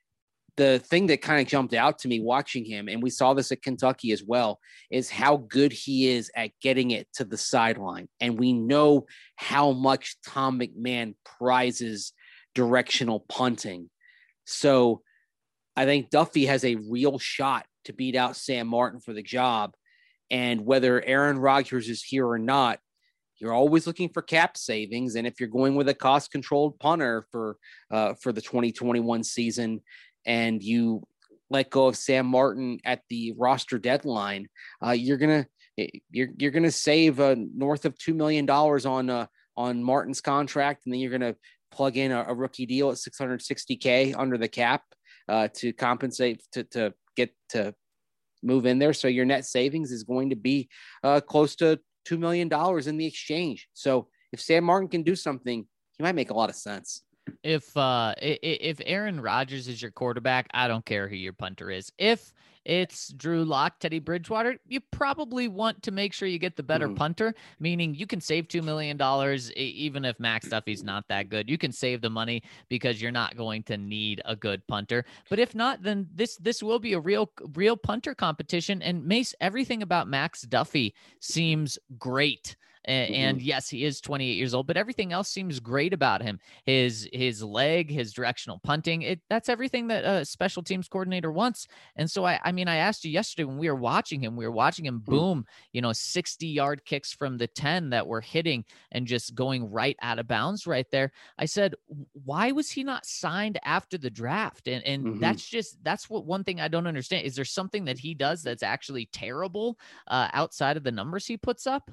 The thing that kind of jumped out to me watching him, and we saw this at Kentucky as well, is how good he is at getting it to the sideline. And we know how much Tom McMahon prizes directional punting. So I think Duffy has a real shot to beat out Sam Martin for the job. And whether Aaron Rodgers is here or not, you're always looking for cap savings. And if you're going with a cost-controlled punter for uh, for the twenty twenty-one season, and you let go of Sam Martin at the roster deadline, uh, you're gonna you're you're gonna save uh, north of two million dollars on uh, on Martin's contract, and then you're gonna plug in a, a rookie deal at six hundred sixty K under the cap uh, to compensate to to get to move in there. So your net savings is going to be uh, close to two million dollars in the exchange. So if Sam Martin can do something, he might make a lot of sense. If uh if Aaron Rodgers is your quarterback, I don't care who your punter is. If it's Drew Lock, Teddy Bridgewater, you probably want to make sure you get the better mm-hmm. punter, meaning you can save two million dollars even if Max Duffy's not that good. You can save the money because you're not going to need a good punter. But if not, then this this will be a real real punter competition. And Mace, everything about Max Duffy seems great. And, mm-hmm. and yes, he is twenty-eight years old, but everything else seems great about him. His his leg, his directional punting, it that's everything that a special teams coordinator wants. And so, I, I mean, I asked you yesterday when we were watching him, we were watching him boom, you know, sixty-yard kicks from the ten that were hitting and just going right out of bounds right there. I said, why was he not signed after the draft? And, and mm-hmm. that's just, that's what one thing I don't understand. Is there something that he does that's actually terrible uh, outside of the numbers he puts up?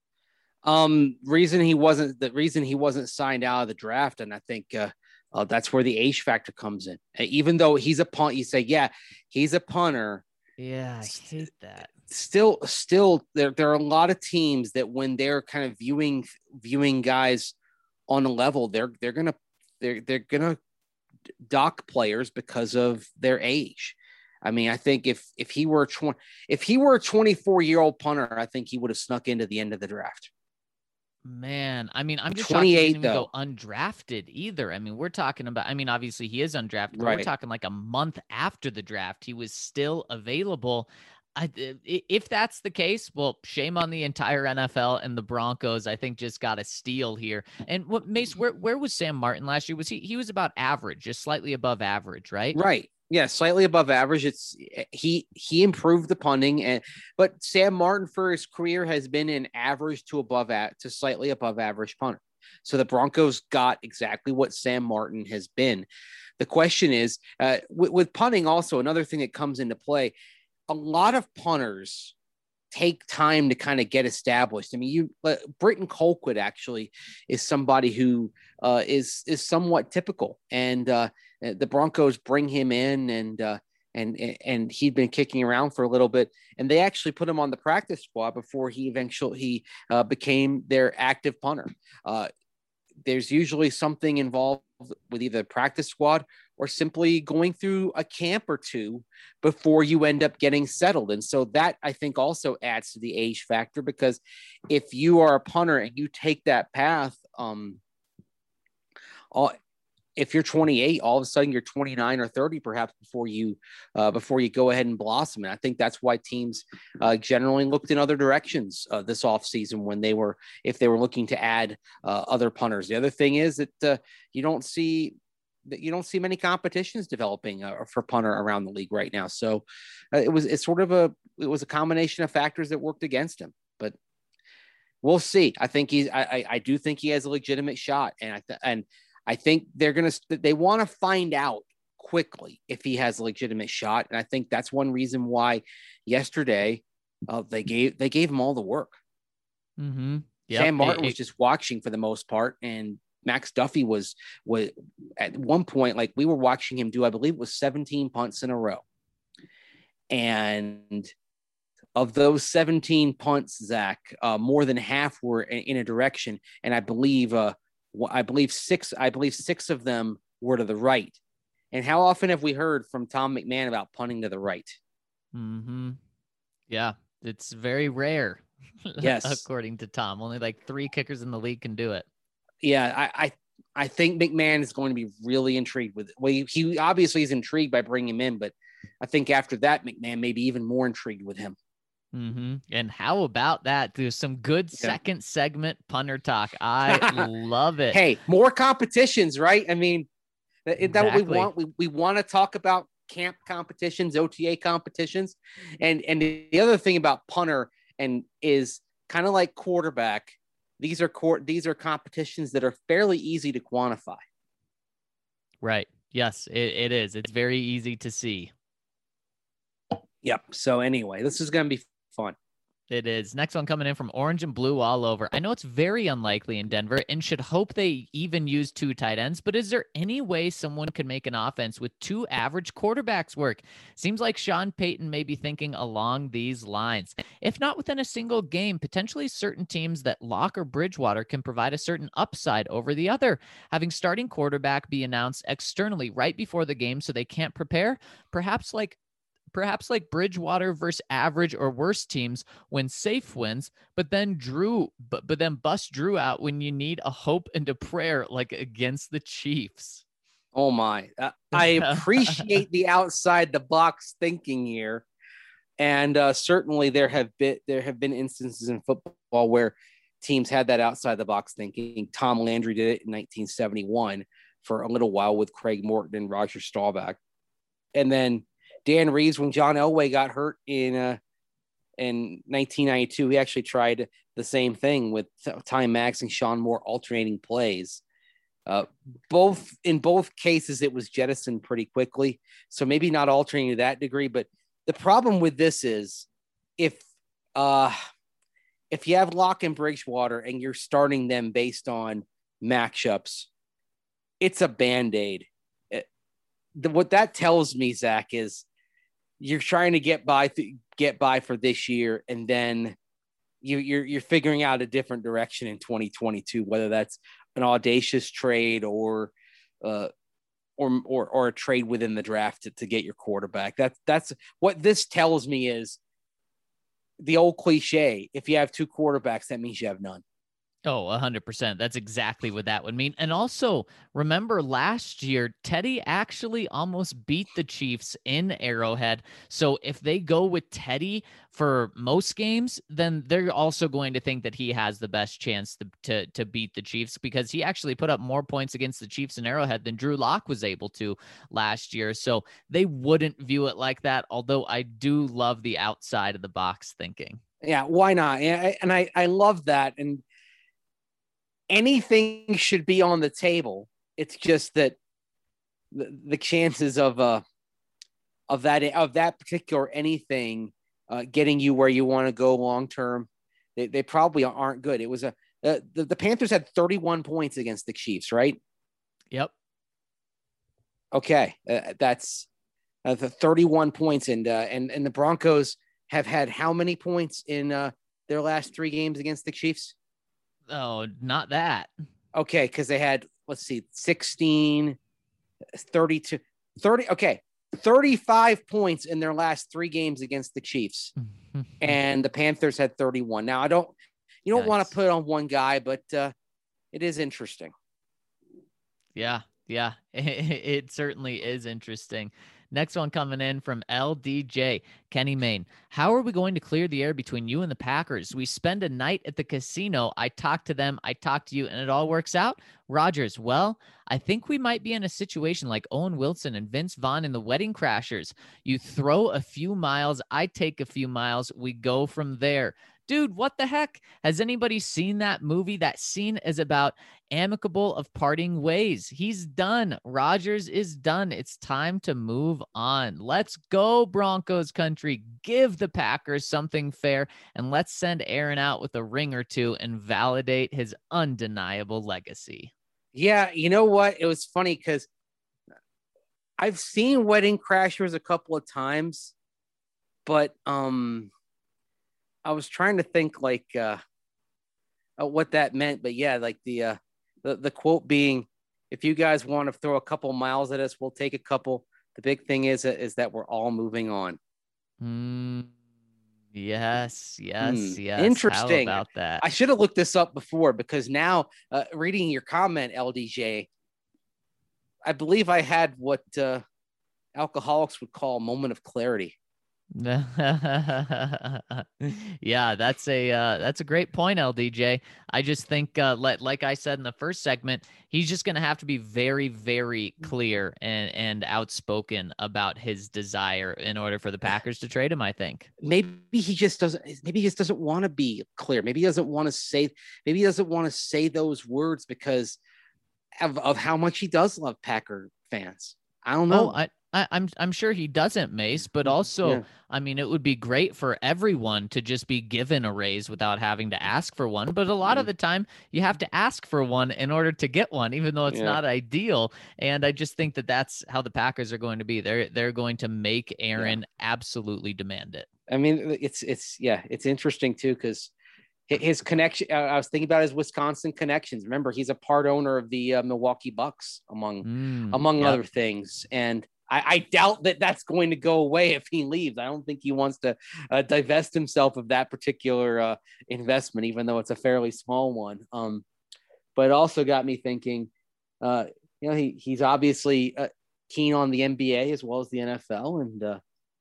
Um, reason he wasn't the reason he wasn't signed out of the draft, and I think uh, uh, that's where the age factor comes in. Uh, even though he's a punt, you say, yeah, he's a punter. Yeah, I hate that. Still, still, there there are a lot of teams that when they're kind of viewing viewing guys on a level, they're they're gonna they're they're gonna dock players because of their age. I mean, I think if if he were twenty, if he were a twenty-four year old punter, I think he would have snuck into the end of the draft. Man, I mean, I'm just shocked he didn't even go undrafted either. I mean, we're talking about, I mean, obviously he is undrafted, but right. we're talking like a month after the draft. He was still available. I, if that's the case, well, shame on the entire N F L, and the Broncos, I think, just got a steal here. And what Mace, where where was Sam Martin last year? Was he he was about average, just slightly above average, right? Right. Yeah, slightly above average. It's he he improved the punting, and but Sam Martin for his career has been an average to above at to slightly above average punter. So the Broncos got exactly what Sam Martin has been. The question is, uh, with, with punting, also another thing that comes into play. A lot of punters take time to kind of get established. I mean, you uh, Britton Colquitt actually is somebody who uh, is is somewhat typical, and uh, the Broncos bring him in, and uh, and and he'd been kicking around for a little bit, and they actually put him on the practice squad before he eventually he uh, became their active punter. Uh, there's usually something involved with either practice squad or simply going through a camp or two before you end up getting settled. And so that, I think, also adds to the age factor, because if you are a punter and you take that path, um, all, if you're twenty-eight, all of a sudden you're twenty-nine or thirty, perhaps before you, uh, before you go ahead and blossom. And I think that's why teams uh, generally looked in other directions uh, this offseason when they were, if they were looking to add uh, other punters. The other thing is that uh, you don't see, that you don't see many competitions developing uh, for punter around the league right now. So uh, it was, it's sort of a, it was a combination of factors that worked against him, but we'll see. I think he's, I, I, I do think he has a legitimate shot. And I, th- and I think they're going to, they want to find out quickly if he has a legitimate shot. And I think that's one reason why yesterday uh, they gave, they gave him all the work. Mm-hmm. Yep. Sam Martin it, was just watching for the most part. And Max Duffy was, was at one point, like we were watching him do, I believe it was seventeen punts in a row. And of those seventeen punts, Zach, uh, more than half were in, in a direction. And I believe, uh, I believe six, I believe six of them were to the right. And how often have we heard from Tom McMahon about punting to the right? Mm-hmm. Yeah, it's very rare. Yes. According to Tom, only like three kickers in the league can do it. Yeah, I, I, I think McMahon is going to be really intrigued with it. Well, he, he obviously is intrigued by bringing him in, but I think after that, McMahon may be even more intrigued with him. Mm-hmm. And how about that? There's some good yeah. second segment punter talk. I love it. Hey, more competitions, right? I mean, is that exactly. what we want? We, we want to talk about camp competitions, O T A competitions. And, and the other thing about punter and is kind of like quarterback. These are court. These are competitions that are fairly easy to quantify. Right. Yes, it, it is. It's very easy to see. Yep. So anyway, this is going to be fun. It is. Next one coming in from Orange and Blue all over. I know it's very unlikely in Denver and should hope they even use two tight ends, but is there any way someone could make an offense with two average quarterbacks work? Seems like Sean Payton may be thinking along these lines. If not within a single game, potentially certain teams that Locke or Bridgewater can provide a certain upside over the other. Having starting quarterback be announced externally right before the game so they can't prepare, perhaps like Perhaps like Bridgewater versus average or worse teams when safe wins, but then Drew, but, but then bust Drew out when you need a hope and a prayer, like against the Chiefs. Oh my, uh, I appreciate the outside the box thinking here. And uh, certainly there have been, there have been instances in football where teams had that outside the box thinking. Tom Landry did it in nineteen seventy-one for a little while with Craig Morton and Roger Staubach. And then Dan Reeves, when John Elway got hurt in uh, in nineteen ninety-two, he actually tried the same thing with Ty Max and Sean Moore alternating plays. Uh, both in both cases, it was jettisoned pretty quickly. So maybe not alternating to that degree. But the problem with this is if uh, if you have Locke and Bridgewater and you're starting them based on matchups, it's a Band-Aid. It, the, what that tells me, Zach, is you're trying to get by, th- get by for this year, and then you, you're you're figuring out a different direction in twenty twenty-two, whether that's an audacious trade or, uh, or or or a trade within the draft to, to get your quarterback. That's that's what this tells me is the old cliche: if you have two quarterbacks, that means you have none. Oh, one hundred percent. That's exactly what that would mean. And also, remember last year, Teddy actually almost beat the Chiefs in Arrowhead. So if they go with Teddy for most games, then they're also going to think that he has the best chance to, to, to beat the Chiefs, because he actually put up more points against the Chiefs in Arrowhead than Drew Lock was able to last year. So they wouldn't view it like that, although I do love the outside of the box thinking. Yeah, why not? And I, I love that. And anything should be on the table. It's just that the, the chances of uh of that of that particular anything uh, getting you where you want to go long term, they, they probably aren't good. It was a uh, the, the Panthers had thirty-one points against the Chiefs, right? Yep. Okay, uh, that's uh, the thirty-one points, and uh, and and the Broncos have had how many points in uh, their last three games against the Chiefs? Oh, not that. Okay, because they had, let's see, sixteen, thirty-two, thirty, okay, thirty-five points in their last three games against the Chiefs. And the Panthers had thirty-one. Now, I don't, you don't nice. want to put on one guy, but uh, it is interesting. Yeah, yeah, it certainly is interesting. Next one coming in from L D J, Kenny Main. How are we going to clear the air between you and the Packers? We spend a night at the casino. I talk to them, I talk to you, and it all works out. Rogers, well, I think we might be in a situation like Owen Wilson and Vince Vaughn in The Wedding Crashers. You throw a few miles, I take a few miles, we go from there. Dude, what the heck? Has anybody seen that movie? That scene is about amicable of parting ways. He's done. Rodgers is done. It's time to move on. Let's go, Broncos country. Give the Packers something fair, and let's send Aaron out with a ring or two and validate his undeniable legacy. Yeah, you know what? It was funny because I've seen Wedding Crashers a couple of times, but um, I was trying to think like uh, uh, what that meant. But yeah, like the, uh, the the quote being, "If you guys want to throw a couple miles at us, we'll take a couple. The big thing is is that we're all moving on." Mm, yes, yes, mm, yes. Interesting. How about that? I should have looked this up before, because now uh, reading your comment, L D J, I believe I had what uh, alcoholics would call a moment of clarity. Yeah, that's a uh, that's a great point, L D J. I just think, uh, like, like I said in the first segment, he's just going to have to be very, very clear and, and outspoken about his desire in order for the Packers to trade him, I think. Maybe he just doesn't, maybe he just doesn't want to be clear. Maybe he doesn't want to say, maybe he doesn't want to say those words because of, of how much he does love Packer fans. I don't know. Oh, I, I, I'm I'm sure he doesn't, Mace, but also, yeah. I mean, it would be great for everyone to just be given a raise without having to ask for one. But a lot mm-hmm. of the time, you have to ask for one in order to get one, even though it's yeah. not ideal. And I just think that that's how the Packers are going to be. They're they're going to make Aaron yeah. absolutely demand it. I mean, it's it's yeah, it's interesting too, because his connection. I was thinking about his Wisconsin connections. Remember, he's a part owner of the uh, Milwaukee Bucks, among mm, among yep. other things, and I, I doubt that that's going to go away if he leaves. I don't think he wants to uh, divest himself of that particular uh, investment, even though it's a fairly small one. Um, but it also got me thinking, uh, you know, he he's obviously uh, keen on the N B A as well as the N F L, and uh,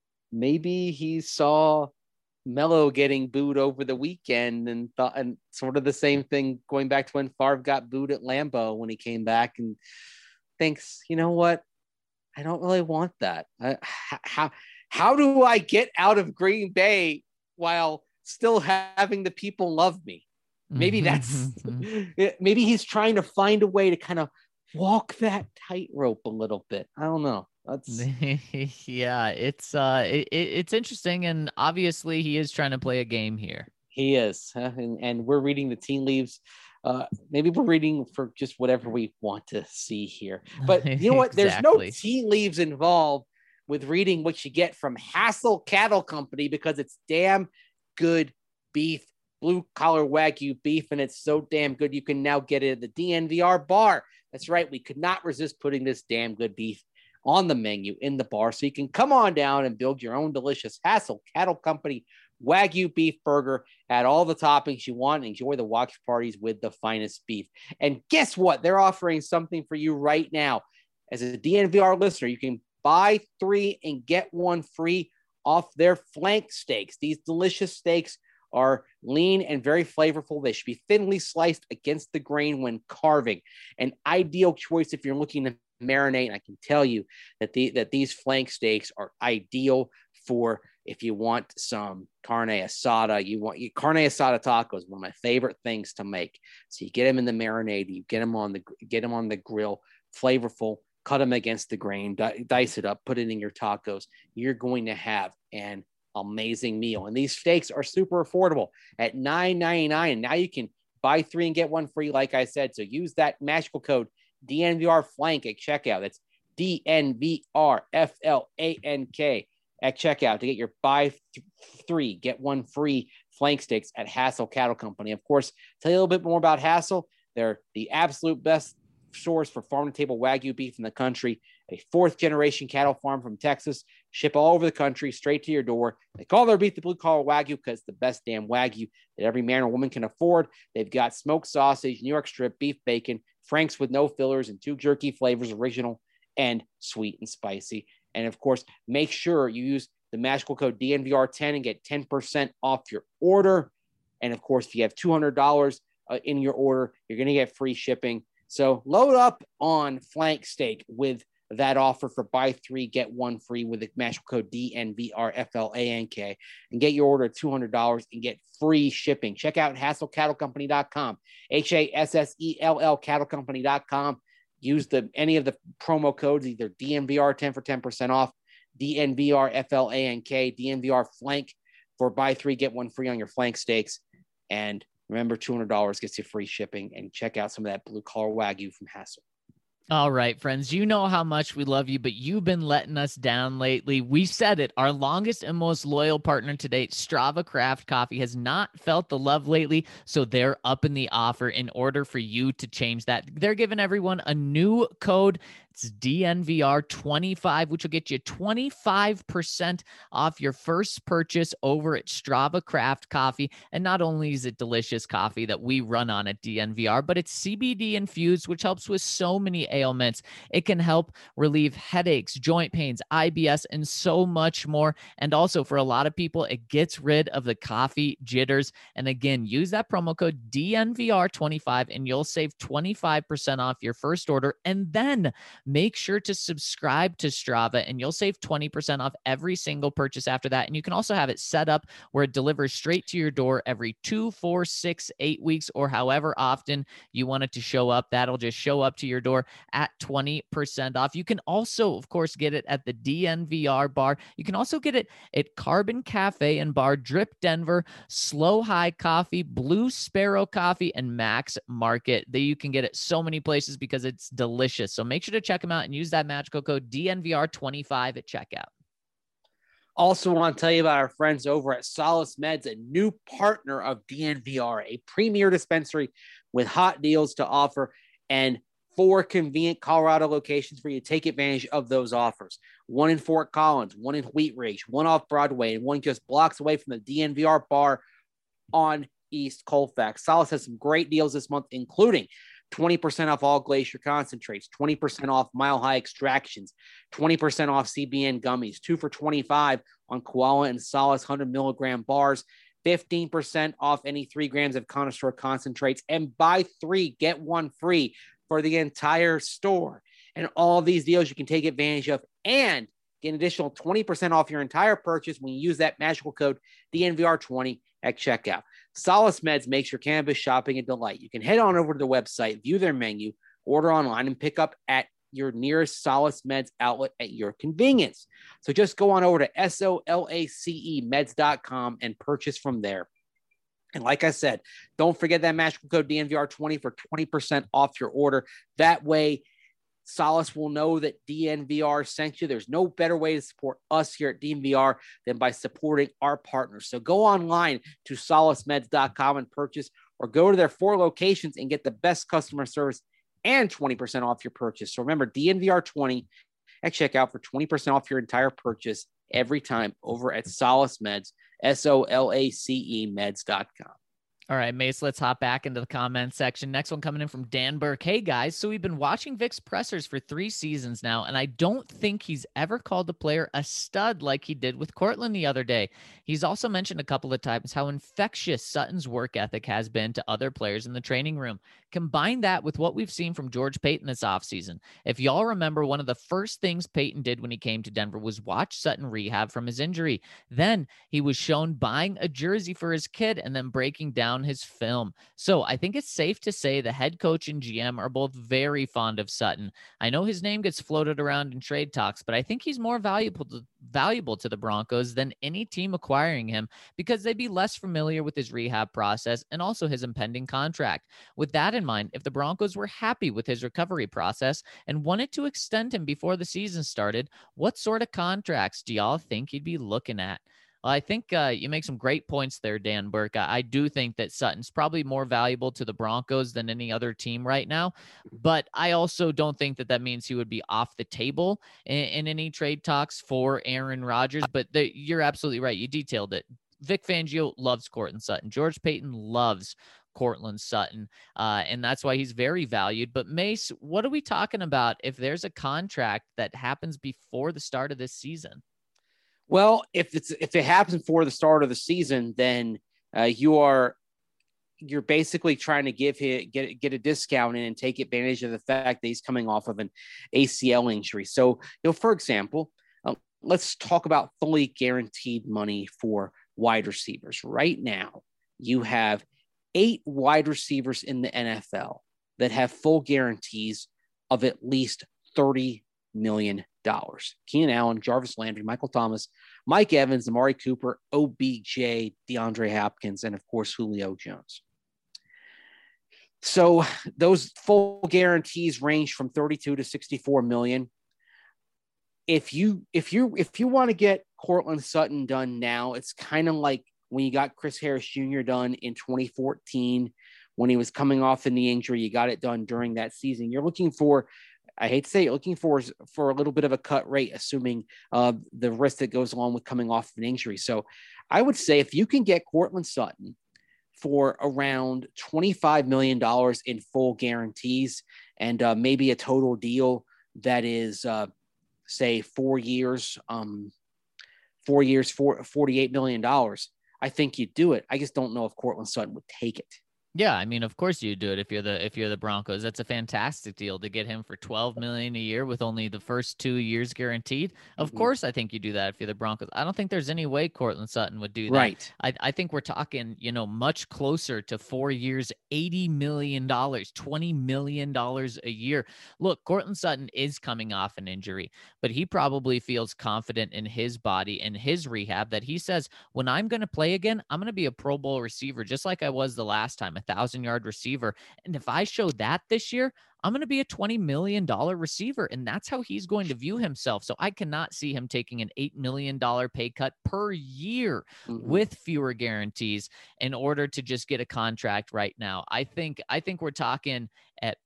maybe he saw Melo getting booed over the weekend and thought, and sort of the same thing going back to when Favre got booed at Lambeau when he came back, and thinks, you know what? I don't really want that. I, how how do I get out of Green Bay while still having the people love me? Maybe that's maybe he's trying to find a way to kind of walk that tightrope a little bit. I don't know. That's yeah, it's uh, it, it's interesting, and obviously he is trying to play a game here. He is, huh? and and we're reading the tea leaves. Uh, maybe we're reading for just whatever we want to see here. But you know what? Exactly. There's no tea leaves involved with reading what you get from Hassel Cattle Company, because it's damn good beef, blue collar Wagyu beef, and it's so damn good you can now get it at the D N V R bar. That's right. We could not resist putting this damn good beef on the menu in the bar, so you can come on down and build your own delicious Hassel Cattle Company Wagyu beef burger. Add all the toppings you want and enjoy the watch parties with the finest beef. And guess what? They're offering something for you right now. As a D N V R listener, you can buy three and get one free off their flank steaks. These delicious steaks are lean and very flavorful. They should be thinly sliced against the grain when carving. An ideal choice if you're looking to marinate. I can tell you that the that these flank steaks are ideal for if you want some carne asada. You want you, carne asada tacos, one of my favorite things to make. So you get them in the marinade, you get them on the get them on the grill, flavorful. Cut them against the grain, di- dice it up, put it in your tacos. You're going to have an amazing meal. And these steaks are super affordable at nine ninety-nine. And now you can buy three and get one free, like I said. So use that magical code D N V R Flank at checkout. That's D N V R F L A N K at checkout to get your buy th- three, get one free flank steaks at Hassel Cattle Company. Of course, tell you a little bit more about Hassel. They're the absolute best source for farm-to-table Wagyu beef in the country, a fourth-generation cattle farm from Texas, ship all over the country, straight to your door. They call their beef the blue-collar Wagyu because it's the best damn Wagyu that every man or woman can afford. They've got smoked sausage, New York strip, beef bacon, Frank's with no fillers, and two jerky flavors, original and sweet and spicy. And, of course, make sure you use the magical code D N V R ten and get ten percent off your order. And, of course, if you have two hundred dollars uh, in your order, you're going to get free shipping. So load up on flank steak with that offer for buy three, get one free with the magical code D N V R F L A N K and get your order at two hundred dollars and get free shipping. Check out hassel cattle company dot com, H A S S E L L cattle company dot com. Use the any of the promo codes, either D N V R ten for ten percent off, D N V R F L A N K, D N V R Flank for buy three, get one free on your flank steaks. And remember, two hundred dollars gets you free shipping, and check out some of that blue collar Wagyu from Hassel. All right, friends, you know how much we love you, but you've been letting us down lately. We said it. Our longest and most loyal partner to date, Strava Craft Coffee, has not felt the love lately, so they're up in the offer in order for you to change that. They're giving everyone a new code. It's D N V R twenty-five, which will get you twenty-five percent off your first purchase over at Strava Craft Coffee. And not only is it delicious coffee that we run on at D N V R, but it's C B D infused, which helps with so many ailments. It can help relieve headaches, joint pains, I B S, and so much more. And also for a lot of people, it gets rid of the coffee jitters. And again, use that promo code D N V R twenty-five and you'll save twenty-five percent off your first order. And then make sure to subscribe to Strava and you'll save twenty percent off every single purchase after that. And you can also have it set up where it delivers straight to your door every two, four, six, eight weeks, or however often you want it to show up. That'll just show up to your door at twenty percent off. You can also, of course, get it at the D N V R bar. You can also get it at Carbon Cafe and Bar, Drip Denver, Slow High Coffee, Blue Sparrow Coffee, and Max Market. That you can get it so many places because it's delicious. So make sure to check them out and use that magical code D N V R twenty-five at checkout. Also want to tell you about our friends over at Solace Meds, a new partner of D N V R, a premier dispensary with hot deals to offer and four convenient Colorado locations for you to take advantage of those offers. One in Fort Collins, one in Wheat Ridge, one off Broadway, and one just blocks away from the D N V R bar on East Colfax. Solace has some great deals this month, including twenty percent off all Glacier concentrates, twenty percent off Mile High extractions, twenty percent off C B N gummies, two for twenty-five on Koala and Solace one hundred milligram bars, fifteen percent off any three grams of Connoisseur concentrates, and buy three, get one free for the entire store. And all of these deals you can take advantage of and get an additional twenty percent off your entire purchase when you use that magical code D N V R twenty at checkout. Solace Meds makes your cannabis shopping a delight. You can head on over to the website, view their menu, order online, and pick up at your nearest Solace Meds outlet at your convenience. So just go on over to S O L A C E meds dot com and purchase from there. And like I said, don't forget that magical code D N V R twenty for twenty percent off your order. That way, Solace will know that D N V R sent you. There's no better way to support us here at D N V R than by supporting our partners. So go online to solace meds dot com and purchase, or go to their four locations and get the best customer service and twenty percent off your purchase. So remember, D N V R twenty at checkout for twenty percent off your entire purchase every time over at Solace Meds, S O L A C E meds dot com. All right, Mace, let's hop back into the comment section. Next one coming in from Dan Burke. Hey, guys. So we've been watching Vic's pressers for three seasons now, and I don't think he's ever called a player a stud like he did with Cortland the other day. He's also mentioned a couple of times how infectious Sutton's work ethic has been to other players in the training room. Combine that with what we've seen from George Payton this offseason. If y'all remember, one of the first things Payton did when he came to Denver was watch Sutton rehab from his injury. Then he was shown buying a jersey for his kid and then breaking down his film. So I think it's safe to say the head coach and G M are both very fond of Sutton. I know his name gets floated around in trade talks, but I think he's more valuable to, valuable to the Broncos than any team acquiring him because they'd be less familiar with his rehab process and also his impending contract. With that in mind, if the Broncos were happy with his recovery process and wanted to extend him before the season started, what sort of contracts do y'all think he'd be looking at? Well, I think uh, you make some great points there, Dan Burke. I, I do think that Sutton's probably more valuable to the Broncos than any other team right now, but I also don't think that that means he would be off the table in, in any trade talks for Aaron Rodgers, but the, you're absolutely right. You detailed it. Vic Fangio loves Courtland Sutton. George Payton loves Courtland Sutton, uh, and that's why he's very valued. But Mace, what are we talking about if there's a contract that happens before the start of this season? Well, if it's if it happens before the start of the season, then uh, you are you're basically trying to give him get get a discount in and take advantage of the fact that he's coming off of an A C L injury. So, you know, for example, uh, let's talk about fully guaranteed money for wide receivers. Right now, you have eight wide receivers in the N F L that have full guarantees of at least thirty million dollars. Keenan Allen, Jarvis Landry, Michael Thomas, Mike Evans, Amari Cooper, O B J, DeAndre Hopkins, and of course, Julio Jones. So those full guarantees range from thirty-two to sixty-four million. If you, if you, if you want to get Courtland Sutton done now, it's kind of like when you got Chris Harris Junior done in twenty fourteen, when he was coming off the knee injury, you got it done during that season. You're looking for, I hate to say it, looking for, for a little bit of a cut rate, assuming uh, the risk that goes along with coming off an injury. So I would say if you can get Courtland Sutton for around twenty-five million dollars in full guarantees and uh, maybe a total deal that is, uh, say, four years, um, four years, for forty-eight million dollars, I think you'd do it. I just don't know if Courtland Sutton would take it. Yeah, I mean, of course you do it if you're the if you're the Broncos. That's a fantastic deal to get him for twelve million dollars a year with only the first two years guaranteed. Of mm-hmm. course, I think you do that if you're the Broncos. I don't think there's any way Courtland Sutton would do that. Right. I, I think we're talking, you know, much closer to four years, eighty million dollars, twenty million dollars a year. Look, Courtland Sutton is coming off an injury, but he probably feels confident in his body and his rehab that he says, when I'm going to play again, I'm going to be a Pro Bowl receiver, just like I was the last time. Thousand yard receiver. And if I show that this year, I'm going to be a twenty million dollars receiver. And that's how he's going to view himself. So I cannot see him taking an eight million dollars pay cut per year mm-hmm. with fewer guarantees in order to just get a contract right now. I think, I think we're talking at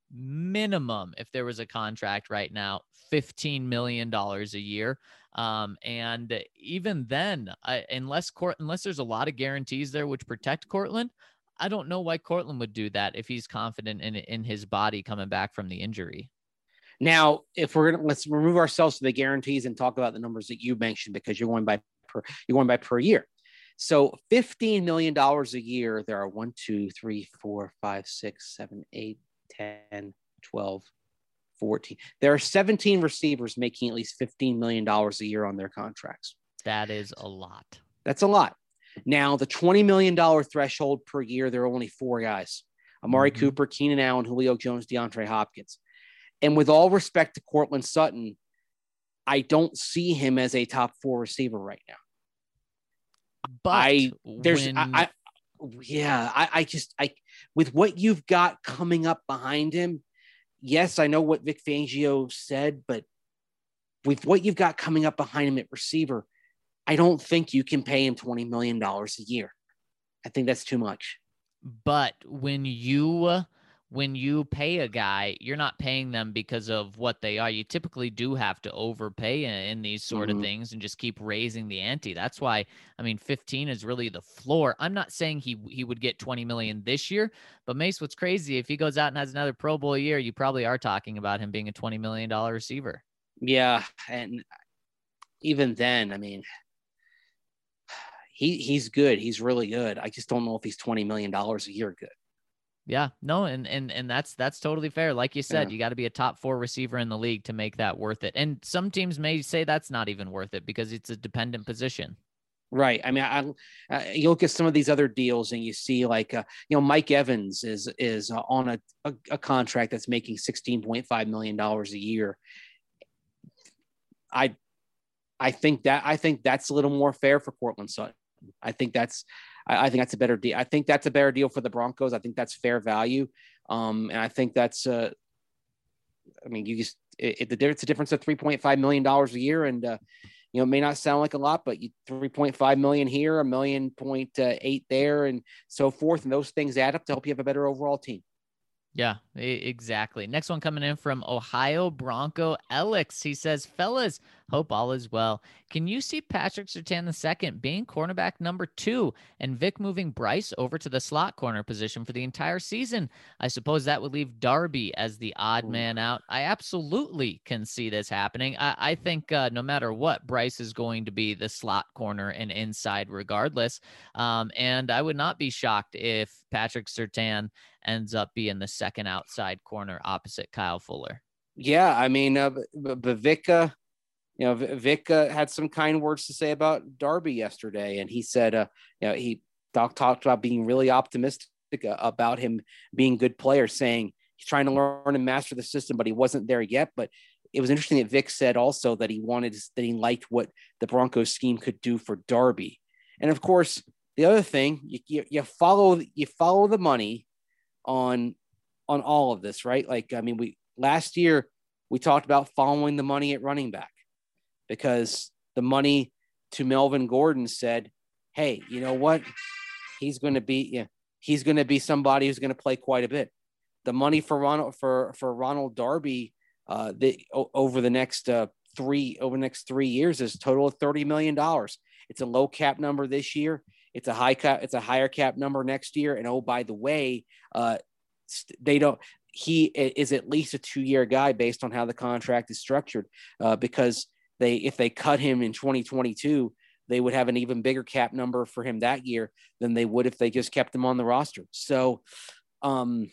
minimum, if there was a contract right now, fifteen million dollars a year. Um, and even then, I, unless court, unless there's a lot of guarantees there, which protect Courtland, I don't know why Courtland would do that if he's confident in in his body coming back from the injury. Now, if we're gonna let's remove ourselves to the guarantees and talk about the numbers that you mentioned, because you're going by per you're going by per year. So fifteen million dollars a year, there are one, two, three, four, five, six, seven, eight, ten, twelve, fourteen. There are seventeen receivers making at least fifteen million dollars a year on their contracts. That is a lot. That's a lot. Now, the twenty million dollars threshold per year, there are only four guys: Amari mm-hmm. Cooper, Keenan Allen, Julio Jones, DeAndre Hopkins. And with all respect to Courtland Sutton, I don't see him as a top four receiver right now. But I, there's, when... I, I, yeah, I, I just, I, with what you've got coming up behind him, yes, I know what Vic Fangio said, but with what you've got coming up behind him at receiver, I don't think you can pay him twenty million dollars a year. I think that's too much. But when you when you pay a guy, you're not paying them because of what they are. You typically do have to overpay in, in these sort Mhm. of things and just keep raising the ante. That's why, I mean, fifteen is really the floor. I'm not saying he he would get twenty million this year, but Mace, what's crazy, if he goes out and has another Pro Bowl year, you probably are talking about him being a twenty million dollars receiver. Yeah, and even then, I mean, he he's good. He's really good. I just don't know if he's twenty million dollars a year good. Yeah, no, and and and that's that's totally fair. Like you said, Yeah. you got to be a top four receiver in the league to make that worth it. And some teams may say that's not even worth it because it's a dependent position. Right. I mean, I, uh, you look at some of these other deals and you see like, uh, you know, Mike Evans is is uh, on a, a, a contract that's making sixteen point five million dollars a year. I I think that I think that's a little more fair for Courtland Sutton. I think that's I, I think that's a better deal. I think that's a better deal for the Broncos. I think that's fair value. Um, and I think that's uh, I mean, you just it, it, the it's a difference of three point five million dollars a year, and uh, you know, it may not sound like a lot, but you three point five million here, a million point eight there, and so forth, and those things add up to help you have a better overall team. Yeah, exactly. Next one coming in from Ohio Bronco Alex. He says, fellas, hope all is well. Can you see Patrick Surtain the second being cornerback number two and Vic moving Bryce over to the slot corner position for the entire season? I suppose that would leave Darby as the odd man out. I absolutely can see this happening. I, I think uh, no matter what, Bryce is going to be the slot corner and inside regardless. Um, and I would not be shocked if Patrick Surtain ends up being the second outside corner opposite Kyle Fuller. Yeah, I mean, uh, but, but Vic, uh, you know, Vic uh, had some kind words to say about Darby yesterday, and he said, uh, you know, he talked talked about being really optimistic about him being a good player, saying he's trying to learn and master the system, but he wasn't there yet. But it was interesting that Vic said also that he wanted that he liked what the Broncos scheme could do for Darby, and of course, the other thing you you, you follow you follow the money on on all of this, right? Like, I mean, we last year we talked about following the money at running back because the money to Melvin Gordon said, hey, you know what? He's going to be, yeah, he's going to be somebody who's going to play quite a bit. The money for Ronald, for, for Ronald Darby uh, the, o- over the next uh, three, over the next three years is a total of thirty million dollars. It's a low cap number this year. It's a high cap. It's a higher cap number next year. And oh, by the way, uh, they don't, he is at least a two-year guy based on how the contract is structured uh, because they, if they cut him in twenty twenty-two, they would have an even bigger cap number for him that year than they would if they just kept him on the roster. So um,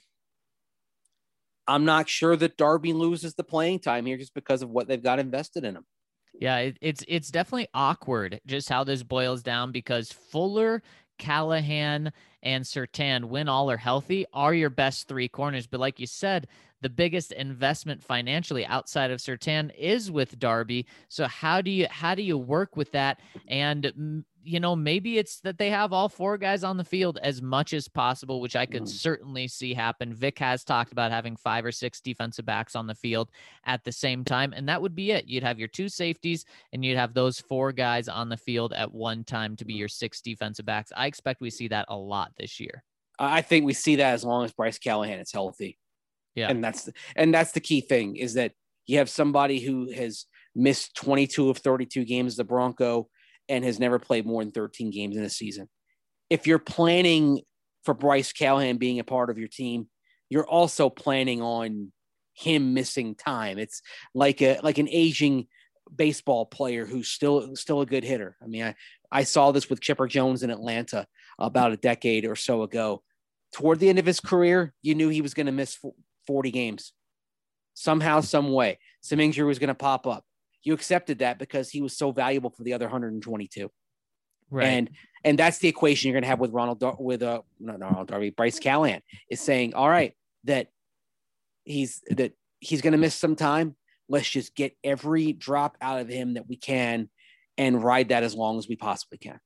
I'm not sure that Darby loses the playing time here just because of what they've got invested in him. Yeah, it, it's it's definitely awkward just how this boils down because Fuller, Callahan, and Surtain, when all are healthy, are your best three corners. But like you said, the biggest investment financially outside of Surtain is with Darby. So how do you how do you work with that? And you know, maybe it's that they have all four guys on the field as much as possible, which I could mm. certainly see happen. Vic has talked about having five or six defensive backs on the field at the same time, and that would be it. You'd have your two safeties, and you'd have those four guys on the field at one time to be your six defensive backs. I expect we see that a lot this year. I think we see that as long as Bryce Callahan is healthy. Yeah. And that's, the, and that's the key thing is that you have somebody who has missed twenty-two of thirty-two games as the Bronco and has never played more than thirteen games in a season. If you're planning for Bryce Callahan being a part of your team, you're also planning on him missing time. It's like a, like an aging baseball player who's still, still a good hitter. I mean, I, I saw this with Chipper Jones in Atlanta about a decade or so ago. Toward the end of his career, you knew he was going to miss forty games. Somehow, some way, some injury was going to pop up. You accepted that because he was so valuable for the other one hundred twenty-two. Right. And and that's the equation you're going to have with Ronald, with uh, not Ronald Darby, Bryce Callahan is saying, all right, that he's, that he's going to miss some time. Let's just get every drop out of him that we can and ride that as long as we possibly can.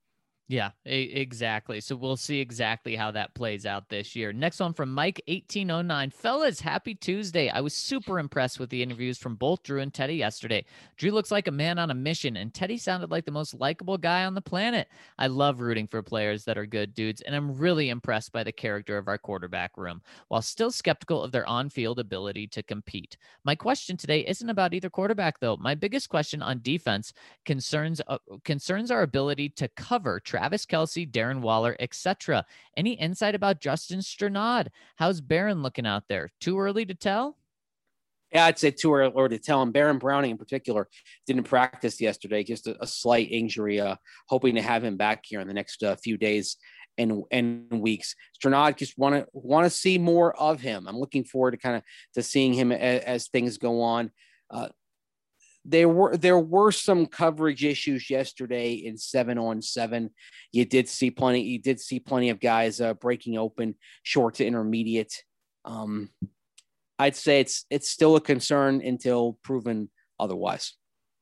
Yeah, e- exactly. So we'll see exactly how that plays out this year. Next one from Mike eighteen oh nine. Fellas, happy Tuesday. I was super impressed with the interviews from both Drew and Teddy yesterday. Drew looks like a man on a mission, and Teddy sounded like the most likable guy on the planet. I love rooting for players that are good dudes, and I'm really impressed by the character of our quarterback room, while still skeptical of their on-field ability to compete. My question today isn't about either quarterback, though. My biggest question on defense concerns uh, concerns our ability to cover Travis Kelce, Darren Waller, et cetera. Any insight about Justin Strnad? How's Barron looking out there? Too early to tell? Yeah, I'd say too early to tell. And Baron Browning in particular didn't practice yesterday, just a, a slight injury. Uh, hoping to have him back here in the next uh, few days and and weeks. Strnad, just want to want to see more of him. I'm looking forward to kind of to seeing him as, as things go on. Uh, there were there were some coverage issues yesterday in seven on seven. You did see plenty. You did see plenty of guys uh, breaking open short to intermediate. Um, I'd say it's it's still a concern until proven otherwise.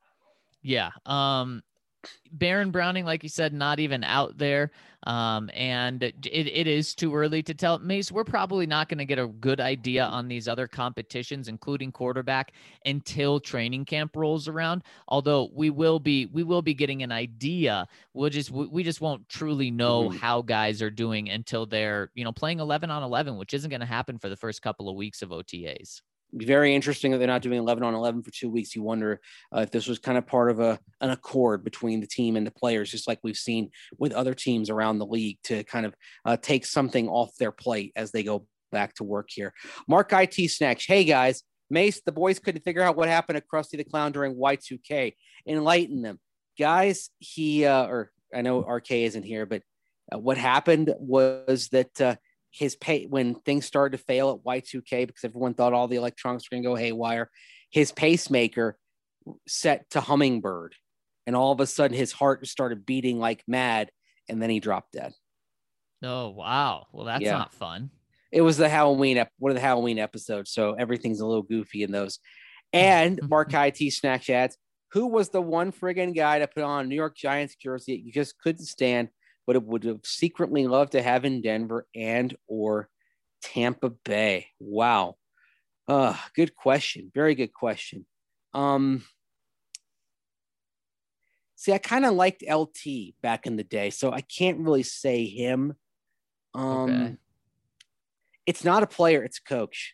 Yeah. Um, Baron Browning, like you said, not even out there. Um, and it, it is too early to tell. Mace, we're probably not going to get a good idea on these other competitions, including quarterback, until training camp rolls around. Although we will be, we will be getting an idea. We'll just, we just won't truly know mm-hmm. how guys are doing until they're, you know, playing eleven on eleven, which isn't going to happen for the first couple of weeks of O T As. Very interesting that they're not doing eleven on eleven for two weeks. You wonder uh, if this was kind of part of a an accord between the team and the players, just like we've seen with other teams around the league, to kind of uh, take something off their plate as they go back to work here. Mark I T Snacks. Hey guys, Mace, the boys couldn't figure out what happened to Krusty the Clown during Y two K. Enlighten them. Guys, he, uh, or I know R K isn't here, but uh, what happened was that uh, his pay when things started to fail at Y two K because everyone thought all the electronics were going to go haywire, his pacemaker set to hummingbird, and all of a sudden his heart started beating like mad, and then he dropped dead. Oh, wow. Well, that's yeah. not fun. It was the Halloween, one of the Halloween episodes, so everything's a little goofy in those. And Mark I T Snack adds, who was the one friggin' guy to put on a New York Giants jersey that you just couldn't stand, but it would have secretly loved to have in Denver and or Tampa Bay? Wow. Uh, good question. Very good question. Um, see, I kind of liked L T back in the day, so I can't really say him. Um, okay. It's not a player, it's a coach.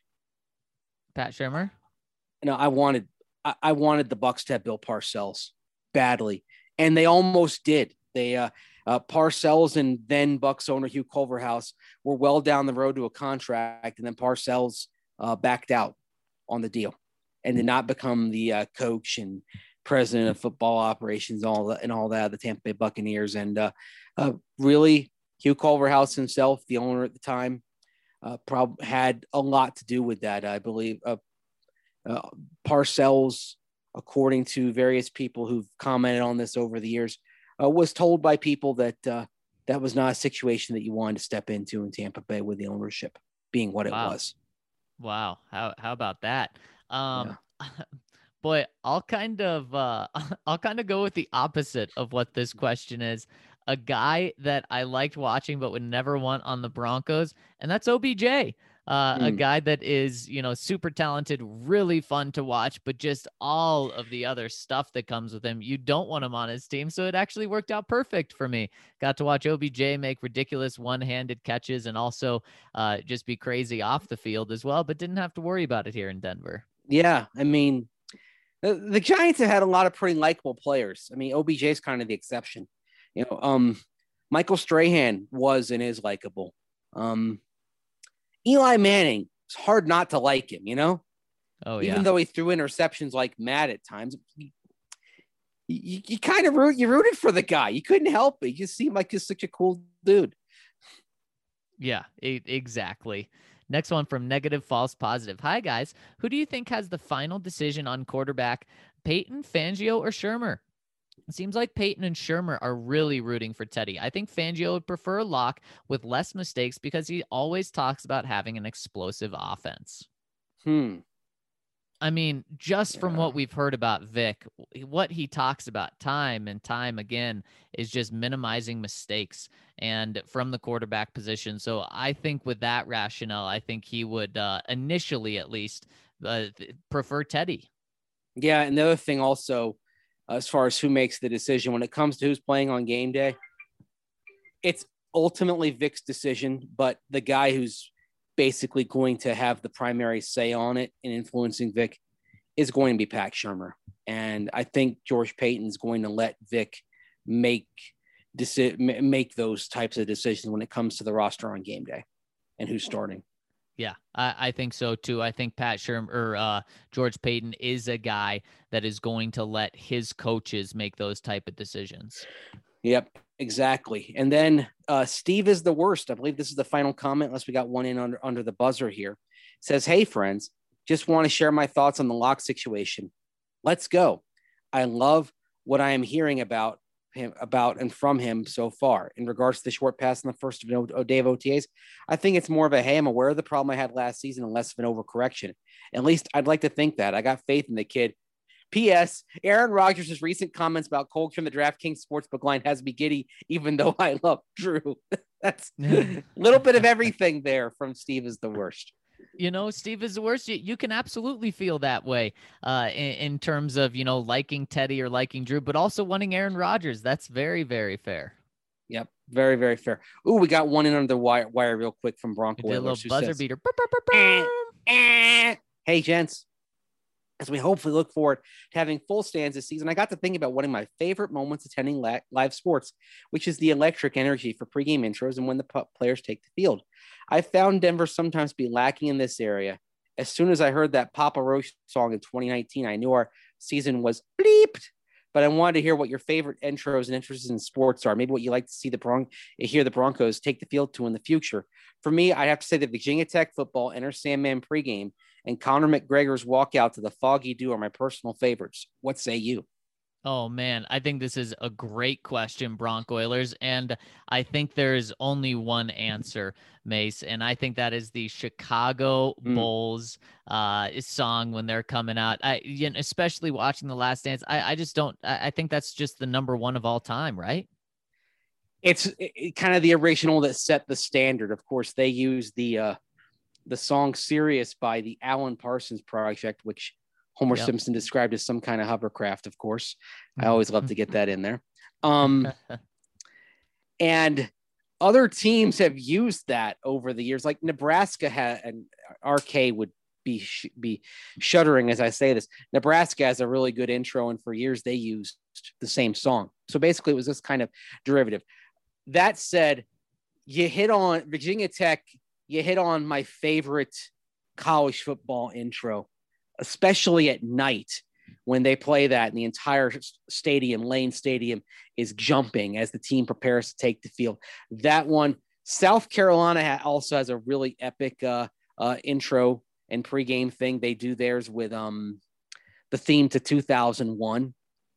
Pat Shurmur? No, I wanted I, I wanted the Bucs to have Bill Parcells badly, and they almost did. They uh Uh, Parcells and then Bucs owner Hugh Culverhouse were well down the road to a contract, and then Parcells uh, backed out on the deal and did not become the uh, coach and president of football operations all that, and all that, the Tampa Bay Buccaneers. And uh, uh, really, Hugh Culverhouse himself, the owner at the time, uh, prob- had a lot to do with that, I believe. Uh, uh, Parcells, according to various people who've commented on this over the years, Uh, was told by people that uh, that was not a situation that you wanted to step into in Tampa Bay with the ownership being what wow. it was. Wow. How, how about that? Um, yeah. Boy, I'll kind of, uh, I'll kind of go with the opposite of what this question is. A guy that I liked watching, but would never want on the Broncos. And that's O B J. Uh, mm. A guy that is, you know, super talented, really fun to watch, but just all of the other stuff that comes with him, you don't want him on his team. So it actually worked out perfect for me. Got to watch O B J make ridiculous one-handed catches and also uh, just be crazy off the field as well, but didn't have to worry about it here in Denver. Yeah, I mean, the, the Giants have had a lot of pretty likable players. I mean, O B J is kind of the exception. You know, um, Michael Strahan was and is likable. Um, Eli Manning, it's hard not to like him, you know? Oh, Even yeah. though he threw interceptions like mad at times, you, you, you kind of root, you rooted for the guy. You couldn't help it. He just seemed like he's such a cool dude. Yeah, e- exactly. Next one from Negative False Positive. Hi, guys. Who do you think has the final decision on quarterback, Peyton, Fangio, or Shurmur? It seems like Peyton and Shurmur are really rooting for Teddy. I think Fangio would prefer Locke with less mistakes because he always talks about having an explosive offense. Hmm. I mean, just from yeah. what we've heard about Vic, what he talks about time and time again is just minimizing mistakes and from the quarterback position. So I think with that rationale, I think he would uh, initially at least uh, prefer Teddy. Yeah. And the other thing also, uh, as far as who makes the decision when it comes to who's playing on game day, it's ultimately Vic's decision, but the guy who's basically going to have the primary say on it and influencing Vic is going to be Pat Shurmur. And I think George Paton's going to let Vic make deci- make those types of decisions when it comes to the roster on game day and who's starting. Yeah, I, I think so too. I think Pat Shurmur or uh, George Paton is a guy that is going to let his coaches make those type of decisions. Yep, exactly. And then uh, Steve is the worst. I believe this is the final comment, unless we got one in under, under the buzzer here. It says, hey, friends, just want to share my thoughts on the lock situation. Let's go. I love what I am hearing about him, about and from him so far. In regards to the short pass in the first day of O T As, I think it's more of a, hey, I'm aware of the problem I had last season and less of an overcorrection. At least I'd like to think that. I got faith in the kid. P S. Aaron Rodgers' recent comments about Colts from the DraftKings Sportsbook line has me giddy, even though I love Drew. That's a little bit of everything there from Steve is the worst. You know, Steve is the worst. You, you can absolutely feel that way uh, in, in terms of, you know, liking Teddy or liking Drew, but also wanting Aaron Rodgers. That's very, very fair. Yep. Very, very fair. Ooh, we got one in under the wire, wire real quick from Bronco. A little buzzer says, beater. Eh, eh. Hey, gents. As we hopefully look forward to having full stands this season, I got to thinking about one of my favorite moments attending la- live sports, which is the electric energy for pregame intros and when the p- players take the field. I found Denver sometimes be lacking in this area. As soon as I heard that Papa Roach song in twenty nineteen, I knew our season was bleeped. But I wanted to hear what your favorite intros and interests in sports are. Maybe what you like to see the Bron- hear the Broncos take the field to in the future. For me, I have to say that Virginia Tech football, Enter Sandman pregame, and Conor McGregor's walkout to the Foggy Dew are my personal favorites. What say you? Oh, man, I think this is a great question, Bronco Oilers. And I think there is only one answer, Mace. And I think that is the Chicago Mm. Bulls uh, song when they're coming out. I, you know, especially watching The Last Dance. I, I just don't I, I think that's just the number one of all time, right? It's it, it kind of the original that set the standard. Of course, they use the uh, the song Sirius by the Alan Parsons Project, which Homer yep. Simpson described as some kind of hovercraft, of course. I always love to get that in there. Um, and other teams have used that over the years. Like Nebraska had, and R K would be sh- be shuddering as I say this. Nebraska has a really good intro, and for years they used the same song. So basically it was this kind of derivative. That said, you hit on Virginia Tech, you hit on my favorite college football intro, especially at night when they play that and the entire stadium, Lane Stadium, is jumping as the team prepares to take the field. That one, South Carolina also has a really epic uh, uh, intro and pregame thing. They do theirs with um, the theme to two thousand one.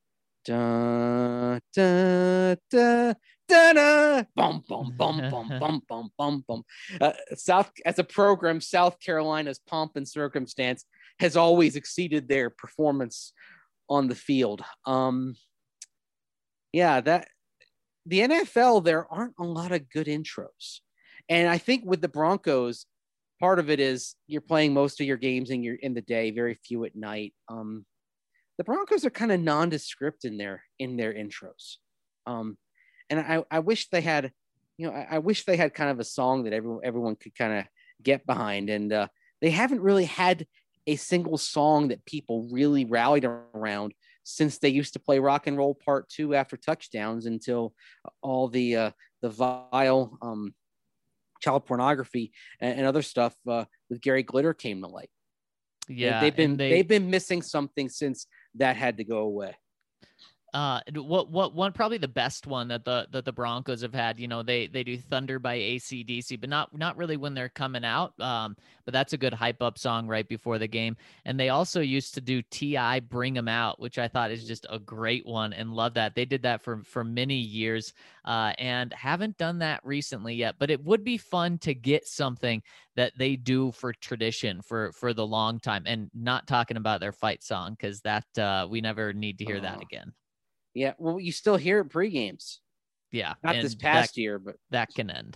Da, da, da, da, da, bum, bum, bum, bum, bum, bum, bum, bum. Uh, South, as a program, South Carolina's pomp and circumstance has always exceeded their performance on the field. Um, yeah, that the N F L, there aren't a lot of good intros. And I think with the Broncos, part of it is you're playing most of your games in your in the day, very few at night. Um, the Broncos are kind of nondescript in their in their intros. Um, and I, I wish they had, you know, I, I wish they had kind of a song that everyone everyone could kind of get behind. And uh, they haven't really had a single song that people really rallied around since they used to play Rock and Roll Part Two after touchdowns until all the uh, the vile um, child pornography and, and other stuff uh, with Gary Glitter came to light. Yeah, they, they've been they, they've been missing something since that had to go away. Uh, what what one probably the best one that the that the Broncos have had. You know, they they do Thunder by A C D C, but not not really when they're coming out. Um, but that's a good hype up song right before the game. And they also used to do T I Bring 'Em Out, which I thought is just a great one, and love that. They did that for for many years, uh, and haven't done that recently yet. But it would be fun to get something that they do for tradition for for the long time, and not talking about their fight song, because that uh, we never need to hear oh. that again. Yeah, well, you still hear it pre-games. Yeah. Not this past that, year, but that can end.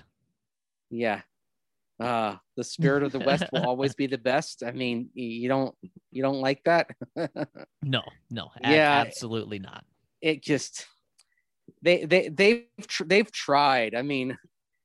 Yeah. Uh, the spirit of the West will always be the best. I mean, you don't you don't like that? no, no. Yeah, absolutely not. It just they they they've tr- they've tried. I mean,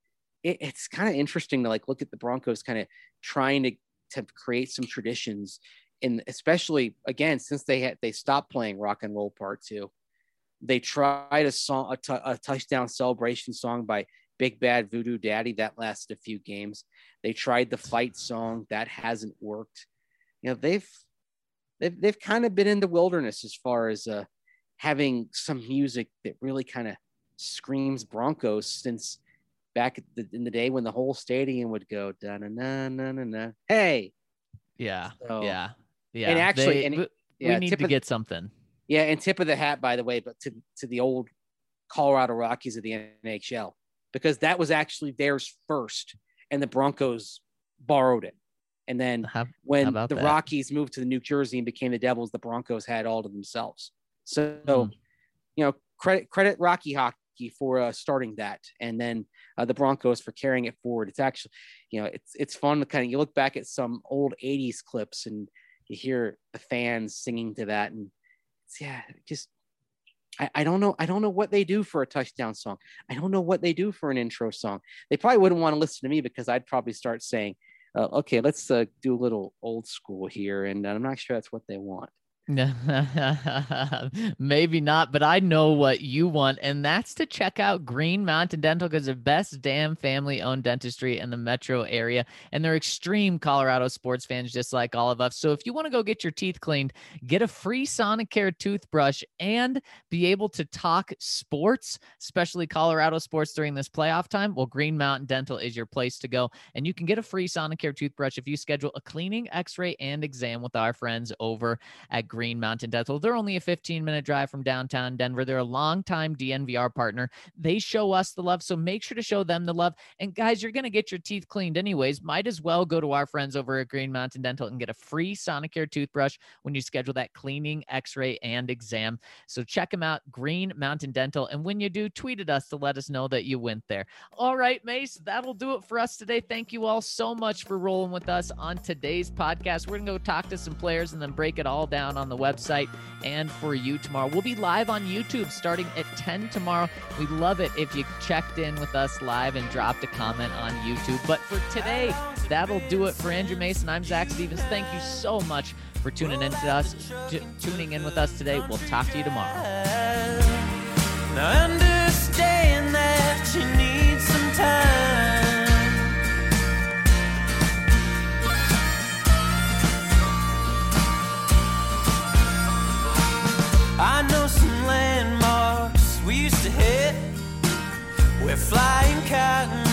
it, it's kind of interesting to like look at the Broncos kind of trying to to create some traditions, and especially again since they had they stopped playing Rock and Roll Part Two. They tried a song, a, t- a touchdown celebration song by Big Bad Voodoo Daddy that lasted a few games. They tried the fight song that hasn't worked. You know, they've they've they've kind of been in the wilderness as far as uh, having some music that really kind of screams Broncos since back the, in the day when the whole stadium would go da na na na na na. Hey, yeah, so, yeah, yeah. And actually, they, and, we yeah, need to of, get something. Yeah, and tip of the hat, by the way, but to, to the old Colorado Rockies of the N H L, because that was actually theirs first, and the Broncos borrowed it. And then how, when how the that? Rockies moved to the New Jersey and became the Devils, the Broncos had all to themselves. So, mm. you know, credit credit Rocky Hockey for uh, starting that, and then uh, the Broncos for carrying it forward. It's actually, you know, it's it's fun to kind of you look back at some old eighties clips and you hear the fans singing to that, and yeah, just I, I don't know. I don't know what they do for a touchdown song. I don't know what they do for an intro song. They probably wouldn't want to listen to me because I'd probably start saying, uh, okay, let's uh, do a little old school here. And I'm not sure that's what they want. Maybe not, but I know what you want, and that's to check out Green Mountain Dental, because they're best damn family-owned dentistry in the metro area, and they're extreme Colorado sports fans just like all of us. So if you want to go get your teeth cleaned, get a free Sonicare toothbrush, and be able to talk sports, especially Colorado sports during this playoff time, well, Green Mountain Dental is your place to go, and you can get a free Sonicare toothbrush if you schedule a cleaning, x-ray, and exam with our friends over at Green Green Mountain Dental. They're only a fifteen minute drive from downtown Denver. They're a longtime D N V R partner. They show us the love, so make sure to show them the love. And guys, you're going to get your teeth cleaned anyways. Might as well go to our friends over at Green Mountain Dental and get a free Sonicare toothbrush when you schedule that cleaning, x-ray, and exam. So check them out, Green Mountain Dental. And when you do, tweet at us to let us know that you went there. All right, Mace, that'll do it for us today. Thank you all so much for rolling with us on today's podcast. We're going to go talk to some players and then break it all down on the website and for you tomorrow. We'll be live on YouTube starting at ten tomorrow. We'd love it if you checked in with us live and dropped a comment on YouTube. But for today, that'll do it for Andrew Mason. I'm Zach Stevens. Thank you so much for tuning in to us, t- tuning in with us today. We'll talk to you tomorrow. Now understand that you need some time. I know some landmarks we used to hit. We're flying cotton